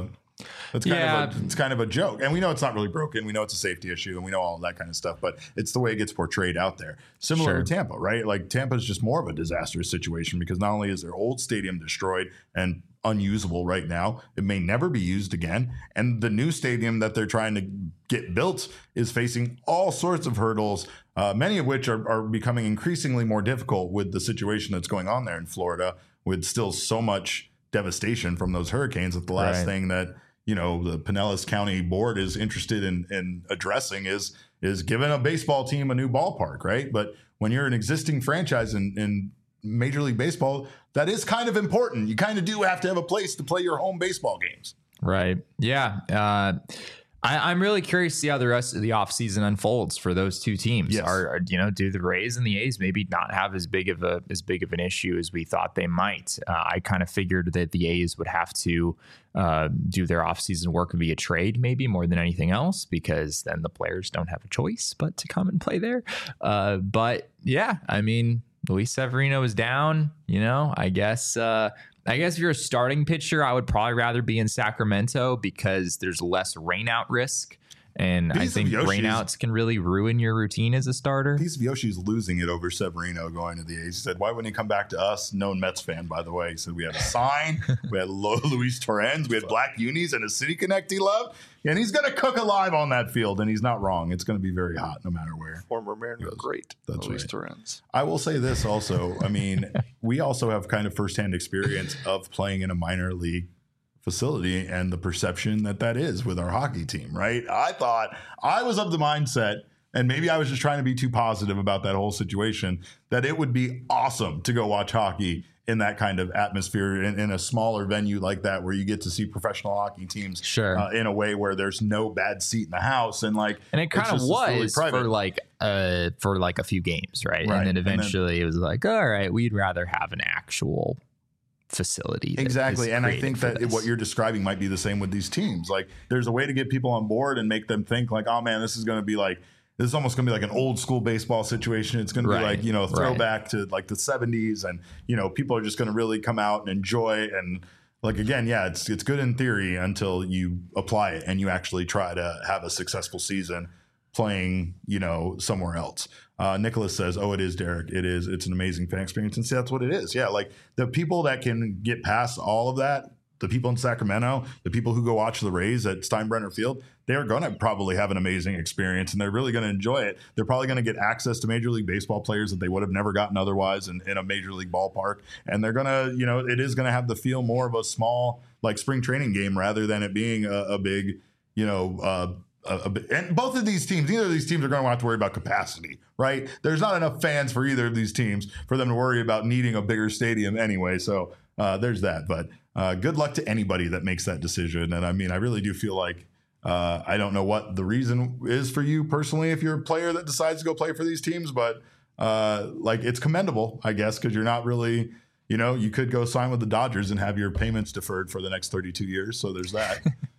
That's kind Yeah. of a, it's kind of a joke. And we know it's not really broken. We know it's a safety issue and we know all that kind of stuff, but it's the way it gets portrayed out there. Similar Sure. to Tampa, right? Like Tampa's just more of a disastrous situation because not only is their old stadium destroyed and unusable right now, it may never be used again. And the new stadium that they're trying to get built is facing all sorts of hurdles, uh, many of which are, are becoming increasingly more difficult with the situation that's going on there in Florida, with still so much devastation from those hurricanes. That the last Right. thing that, you know, the Pinellas County Board is interested in, in addressing is is giving a baseball team a new ballpark, right? But when you're an existing franchise in, in Major League Baseball, that is kind of important. You kind of do have to have a place to play your home baseball games. Right. Yeah. Uh, I, I'm really curious to see how the rest of the offseason unfolds for those two teams. Yes. Are, are you know, do the Rays and the A's maybe not have as big of a as big of an issue as we thought they might? Uh, I kind of figured that the A's would have to uh, do their offseason work via trade, maybe more than anything else, because then the players don't have a choice but to come and play there. Uh, but yeah, I mean, Luis Severino is down. You know, I guess. Uh, I guess if you're a starting pitcher, I would probably rather be in Sacramento because there's less rainout risk. And I These think Yoshis- rainouts can really ruin your routine as a starter. Piece of Yoshi's losing it over Severino going to the A's. He said, why wouldn't he come back to us? Known Mets fan, by the way. He said, we had a sign. We had Lo- Luis Torrens. We had Black Unis and a City Connect he loved. And he's going to cook alive on that field. And he's not wrong. It's going to be very hot no matter where. Former Mariner, great. That's Luis right. Torrens. I will say this also. I mean, we also have kind of firsthand experience of playing in a minor league facility and the perception that that is with our hockey team, right? I thought I was of the mindset, and maybe I was just trying to be too positive about that whole situation, that it would be awesome to go watch hockey in that kind of atmosphere in, in a smaller venue like that, where you get to see professional hockey teams Sure. uh, in a way where there's no bad seat in the house. And like, And it it's kind of just this really was private- for like uh for like a few games, right? Right. And then And then- eventually it was like, all right, we'd rather have an actual facility. that Exactly. is And I created think for that this. what you're describing might be the same with these teams. Like, there's a way to get people on board and make them think like, oh man, this is going to be like, this is almost going to be like an old school baseball situation. It's going to be Right. like, you know, a Right. throwback to like the seventies, and, you know, people are just going to really come out and enjoy. And like, again, yeah, it's, it's good in theory until you apply it and you actually try to have a successful season playing, you know, somewhere else. Uh, Nicholas says, oh, it is, Derek. It is. It's an amazing fan experience. And see, that's what it is. Yeah. Like, the people that can get past all of that, the people in Sacramento, the people who go watch the Rays at Steinbrenner Field, they're going to probably have an amazing experience, and they're really going to enjoy it. They're probably going to get access to Major League Baseball players that they would have never gotten otherwise in, in a Major League ballpark. And they're going to, you know, it is going to have the feel more of a small, like, spring training game rather than it being a, a big, you know, uh, a, a, and both of these teams, neither of these teams are going to have to worry about capacity, right? There's not enough fans for either of these teams for them to worry about needing a bigger stadium anyway. So uh, there's that. But uh, good luck to anybody that makes that decision. And I mean, I really do feel like uh, I don't know what the reason is for you personally if you're a player that decides to go play for these teams, but uh, like, it's commendable, I guess, because you're not really, you know, you could go sign with the Dodgers and have your payments deferred for the next thirty-two years. So there's that.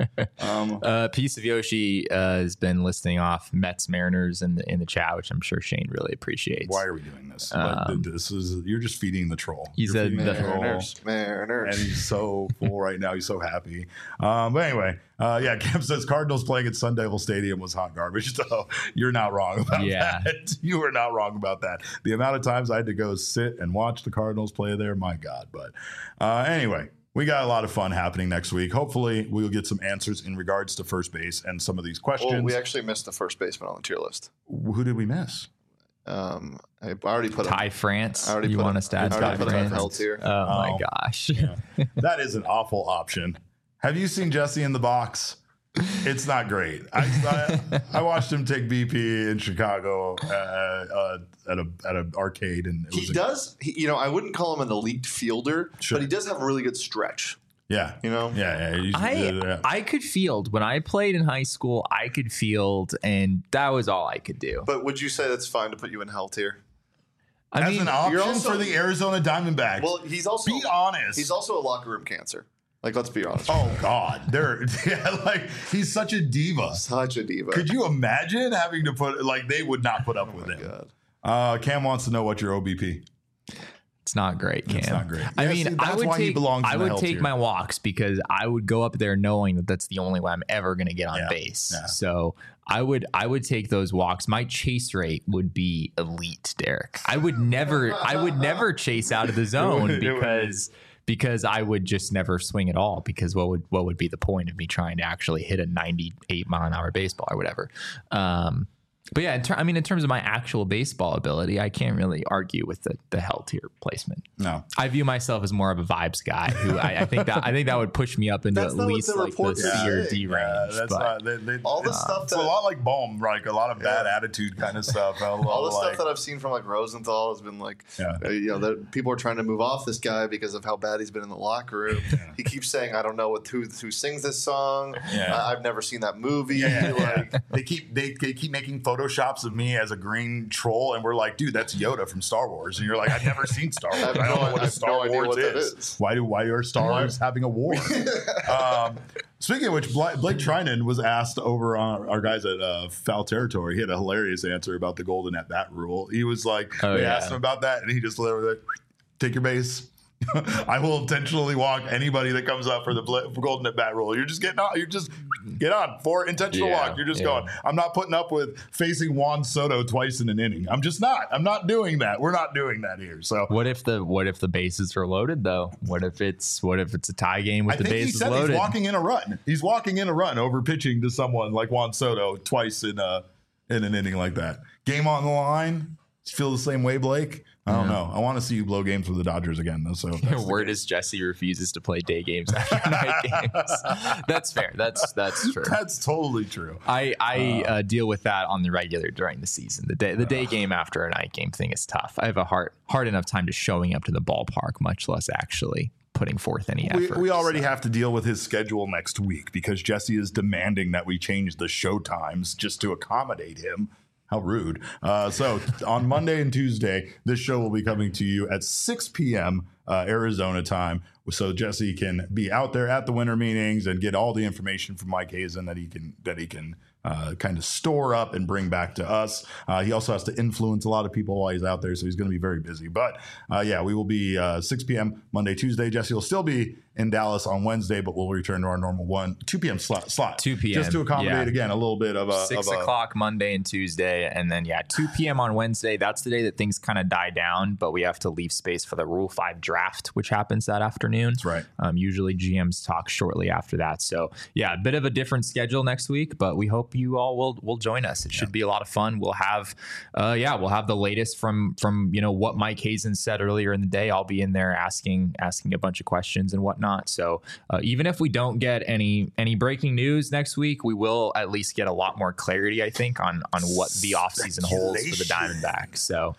um, Uh, Piece of Yoshi uh, has been listing off Mets Mariners in the in the chat, which I'm sure Shane really appreciates. why are we doing this? Um, like, this is you're just feeding the troll. He You're said feeding the- Mariners. Mariners. and he's so full right now. He's so happy. Um, but anyway, uh, yeah, Cam says Cardinals playing at Sun Devil Stadium was hot garbage. So you're not wrong about Yeah. that. You are not wrong about that. The amount of times I had to go sit and watch the Cardinals play there, my God. But uh, anyway, we got a lot of fun happening next week. Hopefully, we'll get some answers in regards to first base and some of these questions. Well, we actually missed the first baseman on the tier list. Who did we miss? Um, I already put Ty him. France. I already You put want him- us to add I Ty already put him in France? L tier. Oh, my Oh. gosh. That is an awful option. Have you seen Jesse in the Box? It's not great. I, I, I watched him take B P in Chicago uh, uh, at a at an arcade, and it He was a- does, he, you know, I wouldn't call him an elite fielder, Sure. but he does have a really good stretch. yeah, You know? yeah, yeah. he's- I yeah. I could field when I played in high school. I could field, and that was all I could do. But would you say that's fine to put you in hell tier? I As mean, an option you're also- for the Arizona Diamondbacks. Well, he's also be honest. he's also a locker room cancer. Like, let's be honest. oh God, they're yeah, like he's such a diva. Such a diva. Could you imagine having to put like they would not put up with Oh my it? God. Uh, Cam wants to know what your O B P. It's not great, Cam. It's not great. I Yeah, mean, see, I that's would why he take belongs in I the would hell take tier. my walks because I would go up there knowing that that's the only way I'm ever going to get on Yeah, base. yeah. So I would I would take those walks. My chase rate would be elite, Derek. I would never I would never chase out of the zone It would- it would. because because I would just never swing at all. Because what would what would be the point of me trying to actually hit a ninety-eight mile an hour baseball or whatever? Um, But yeah, in ter- I mean, in terms of my actual baseball ability, I can't really argue with the the hell tier placement. No. I view myself as more of a vibes guy. Who I, I think that I think that would push me up into That's at not what least the like reports the are C or saying. D range. Yeah, that's but not, they, they, All the it's, stuff it's that- a lot like Bohm, like a lot of bad Yeah. attitude kind of stuff. A lot All the like, stuff that I've seen from like Rosenthal has been like, Yeah. uh, you know, that people are trying to move off this guy because of how bad he's been in the locker room. He keeps saying, "I don't know what who who sings this song. Yeah. I, I've never seen that movie." Yeah, Like, yeah. they keep they, they keep making photoshops of me as a green troll, and we're like, dude, that's Yoda from Star Wars, and you're like, I've never seen Star Wars. I have I, don't no- know what I a have Star no idea Wars what that is. is. Why do why are Star Why- Wars having a war? um, speaking of which, Bla- Blake Trinan was asked over on our guys at uh, Foul Territory. He had a hilarious answer about the golden at bat rule. He was like, Oh, they yeah. asked him about that, and he just literally like, take your base. I will intentionally walk anybody that comes up for the bl- for golden at bat rule. You're just getting on. You're just get on for intentional Yeah, walk. You're just yeah. going. I'm not putting up with facing Juan Soto twice in an inning. I'm just not. I'm not doing that. We're not doing that here. So what if the what if the bases are loaded though? What if it's what if it's a tie game with I the think he bases said loaded? he's walking in a run. He's walking in a run over pitching to someone like Juan Soto twice in a in an inning like that. Game on the line. Feel the same way, Blake? I don't know. I want to see you blow games for the Dodgers again, though. So if that's the Word case. is Jesse refuses to play day games after night games. That's fair. That's that's true. That's totally true. I, I uh, deal with that on the regular during the season. The day the day game after a night game thing is tough. I have a hard hard enough time just showing up to the ballpark, much less actually putting forth any We, effort. we already so. have to deal with his schedule next week because Jesse is demanding that we change the show times just to accommodate him. How rude. Uh, so on Monday and Tuesday, this show will be coming to you at six p.m. Uh, Arizona time. So Jesse can be out there at the winter meetings and get all the information from Mike Hazen that he can that he can uh, kind of store up and bring back to us. Uh, he also has to influence a lot of people while he's out there, so he's going to be very busy. But uh, yeah, we will be uh, six p.m. Monday, Tuesday. Jesse will still be in Dallas on Wednesday, but we'll return to our normal one two p.m. slot. slot two p.m. just to accommodate yeah. again a little bit of a Six of a, o'clock Monday and Tuesday, and then yeah, two p.m. on Wednesday. That's the day that things kind of die down, but we have to leave space for the Rule Five draft, which happens that afternoon. That's right. Um, usually G Ms talk shortly after that. So yeah, a bit of a different schedule next week, but we hope you all will will join us. It should be a lot of fun. We'll have, uh, yeah, we'll have the latest from from you know what Mike Hazen said earlier in the day. I'll be in there asking asking a bunch of questions and whatnot. So uh, even if we don't get any any breaking news next week, we will at least get a lot more clarity, I think, on on what the offseason holds for the Diamondbacks. So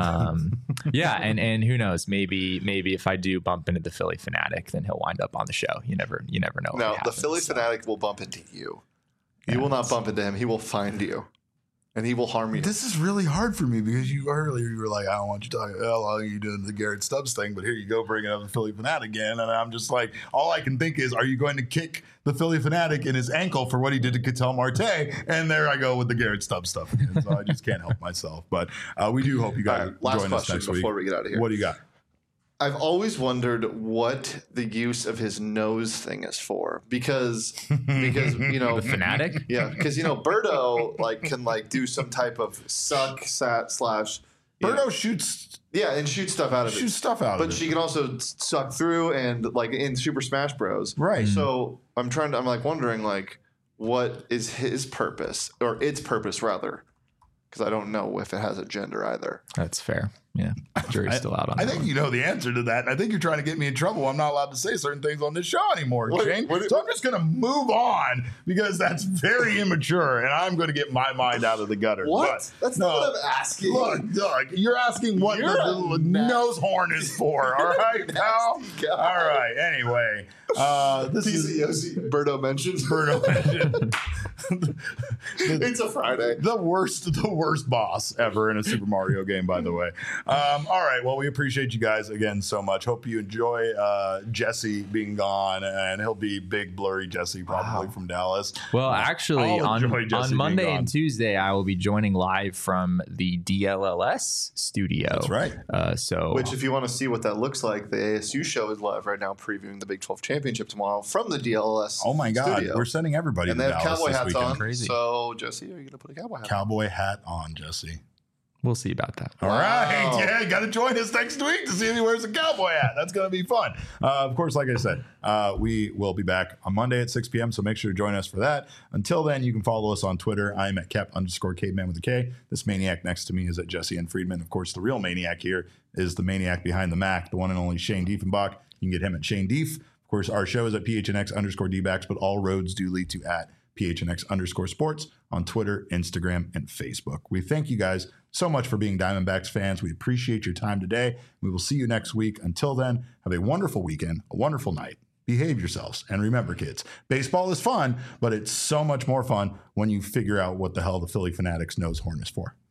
um, yeah, and and who knows, maybe maybe if I do bump into the Philly Fanatic, then he'll wind up on the show. You never you never know. no, what the happens, Philly so. fanatic will bump into you. You Yeah, will not that's- bump into him. He will find you, and he will harm you. This is really hard for me because you earlier you were like, I don't want you talking. How long are you doing the Garrett Stubbs thing? But here you go, bringing up the Philly Fanatic again, and I'm just like, all I can think is, are you going to kick the Philly Fanatic in his ankle for what he did to Ketel Marte? And there I go with the Garrett Stubbs stuff again. So I just can't help myself. But uh, we do hope you All guys right, last join us question next before week. we get out of here. What do you got? I've always wondered what the use of his nose thing is for, because because you know The Fanatic? yeah, because you know Birdo like can like do some type of suck sat slash you know, Birdo shoots yeah and shoot stuff out of shoots it, stuff out but of it. she can also suck through and like in Super Smash Bros. Right. So I'm trying to I'm like wondering like what is his purpose or its purpose rather, because I don't know if it has a gender either. That's fair. Yeah, jury's still out on I that think one. you know the answer to that. I think you're trying to get me in trouble. I'm not allowed to say certain things on this show anymore, What- Shane. what- so I'm just going to move on because that's very immature, and I'm going to get my mind out of the gutter. What? But, That's no, not what I'm asking. Look, look, you're asking what You're the, a the nasty- nose horn is for. All right, pal. nasty guy. All right. Anyway, uh, this is T C O C Birdo mentioned. Birdo mentioned. It's a Friday. The worst, the worst boss ever in a Super Mario game, by the way. Um, all right. Well, we appreciate you guys again so much. Hope you enjoy uh, Jesse being gone, and he'll be big, blurry Jesse probably wow. from Dallas. Well, actually, I'll on, on Monday and Tuesday, I will be joining live from the D L L S studio. That's right. Uh, so, which, if you want to see what that looks like, the A S U show is live right now, previewing the Big twelve championship tomorrow from the D L L S. Oh my God, studio. We're sending everybody. And to they have Dallas cowboy this hats weekend. on. Crazy. So, Jesse, are you going to put a cowboy hat? Cowboy on? hat on, Jesse. We'll see about that. All wow. right. Yeah, you got to join us next week to see if he wears a cowboy hat. That's going to be fun. Uh, of course, like I said, uh, we will be back on Monday at six p.m., so make sure to join us for that. Until then, you can follow us on Twitter. I'm at Kep underscore caveman with a K. This maniac next to me is at Jesse N. Friedman. Of course, the real maniac here is the maniac behind the Mac, the one and only Shane Diefenbach. You can get him at Shane Dief. Of course, our show is at P H N X underscore D-backs, but all roads do lead to at P H N X underscore sports on Twitter, Instagram, and Facebook. We thank you guys so much for being Diamondbacks fans. We appreciate your time today. We will see you next week. Until then, have a wonderful weekend, a wonderful night. Behave yourselves. And remember, kids, baseball is fun, but it's so much more fun when you figure out what the hell the Philly Fanatics nose horn is for.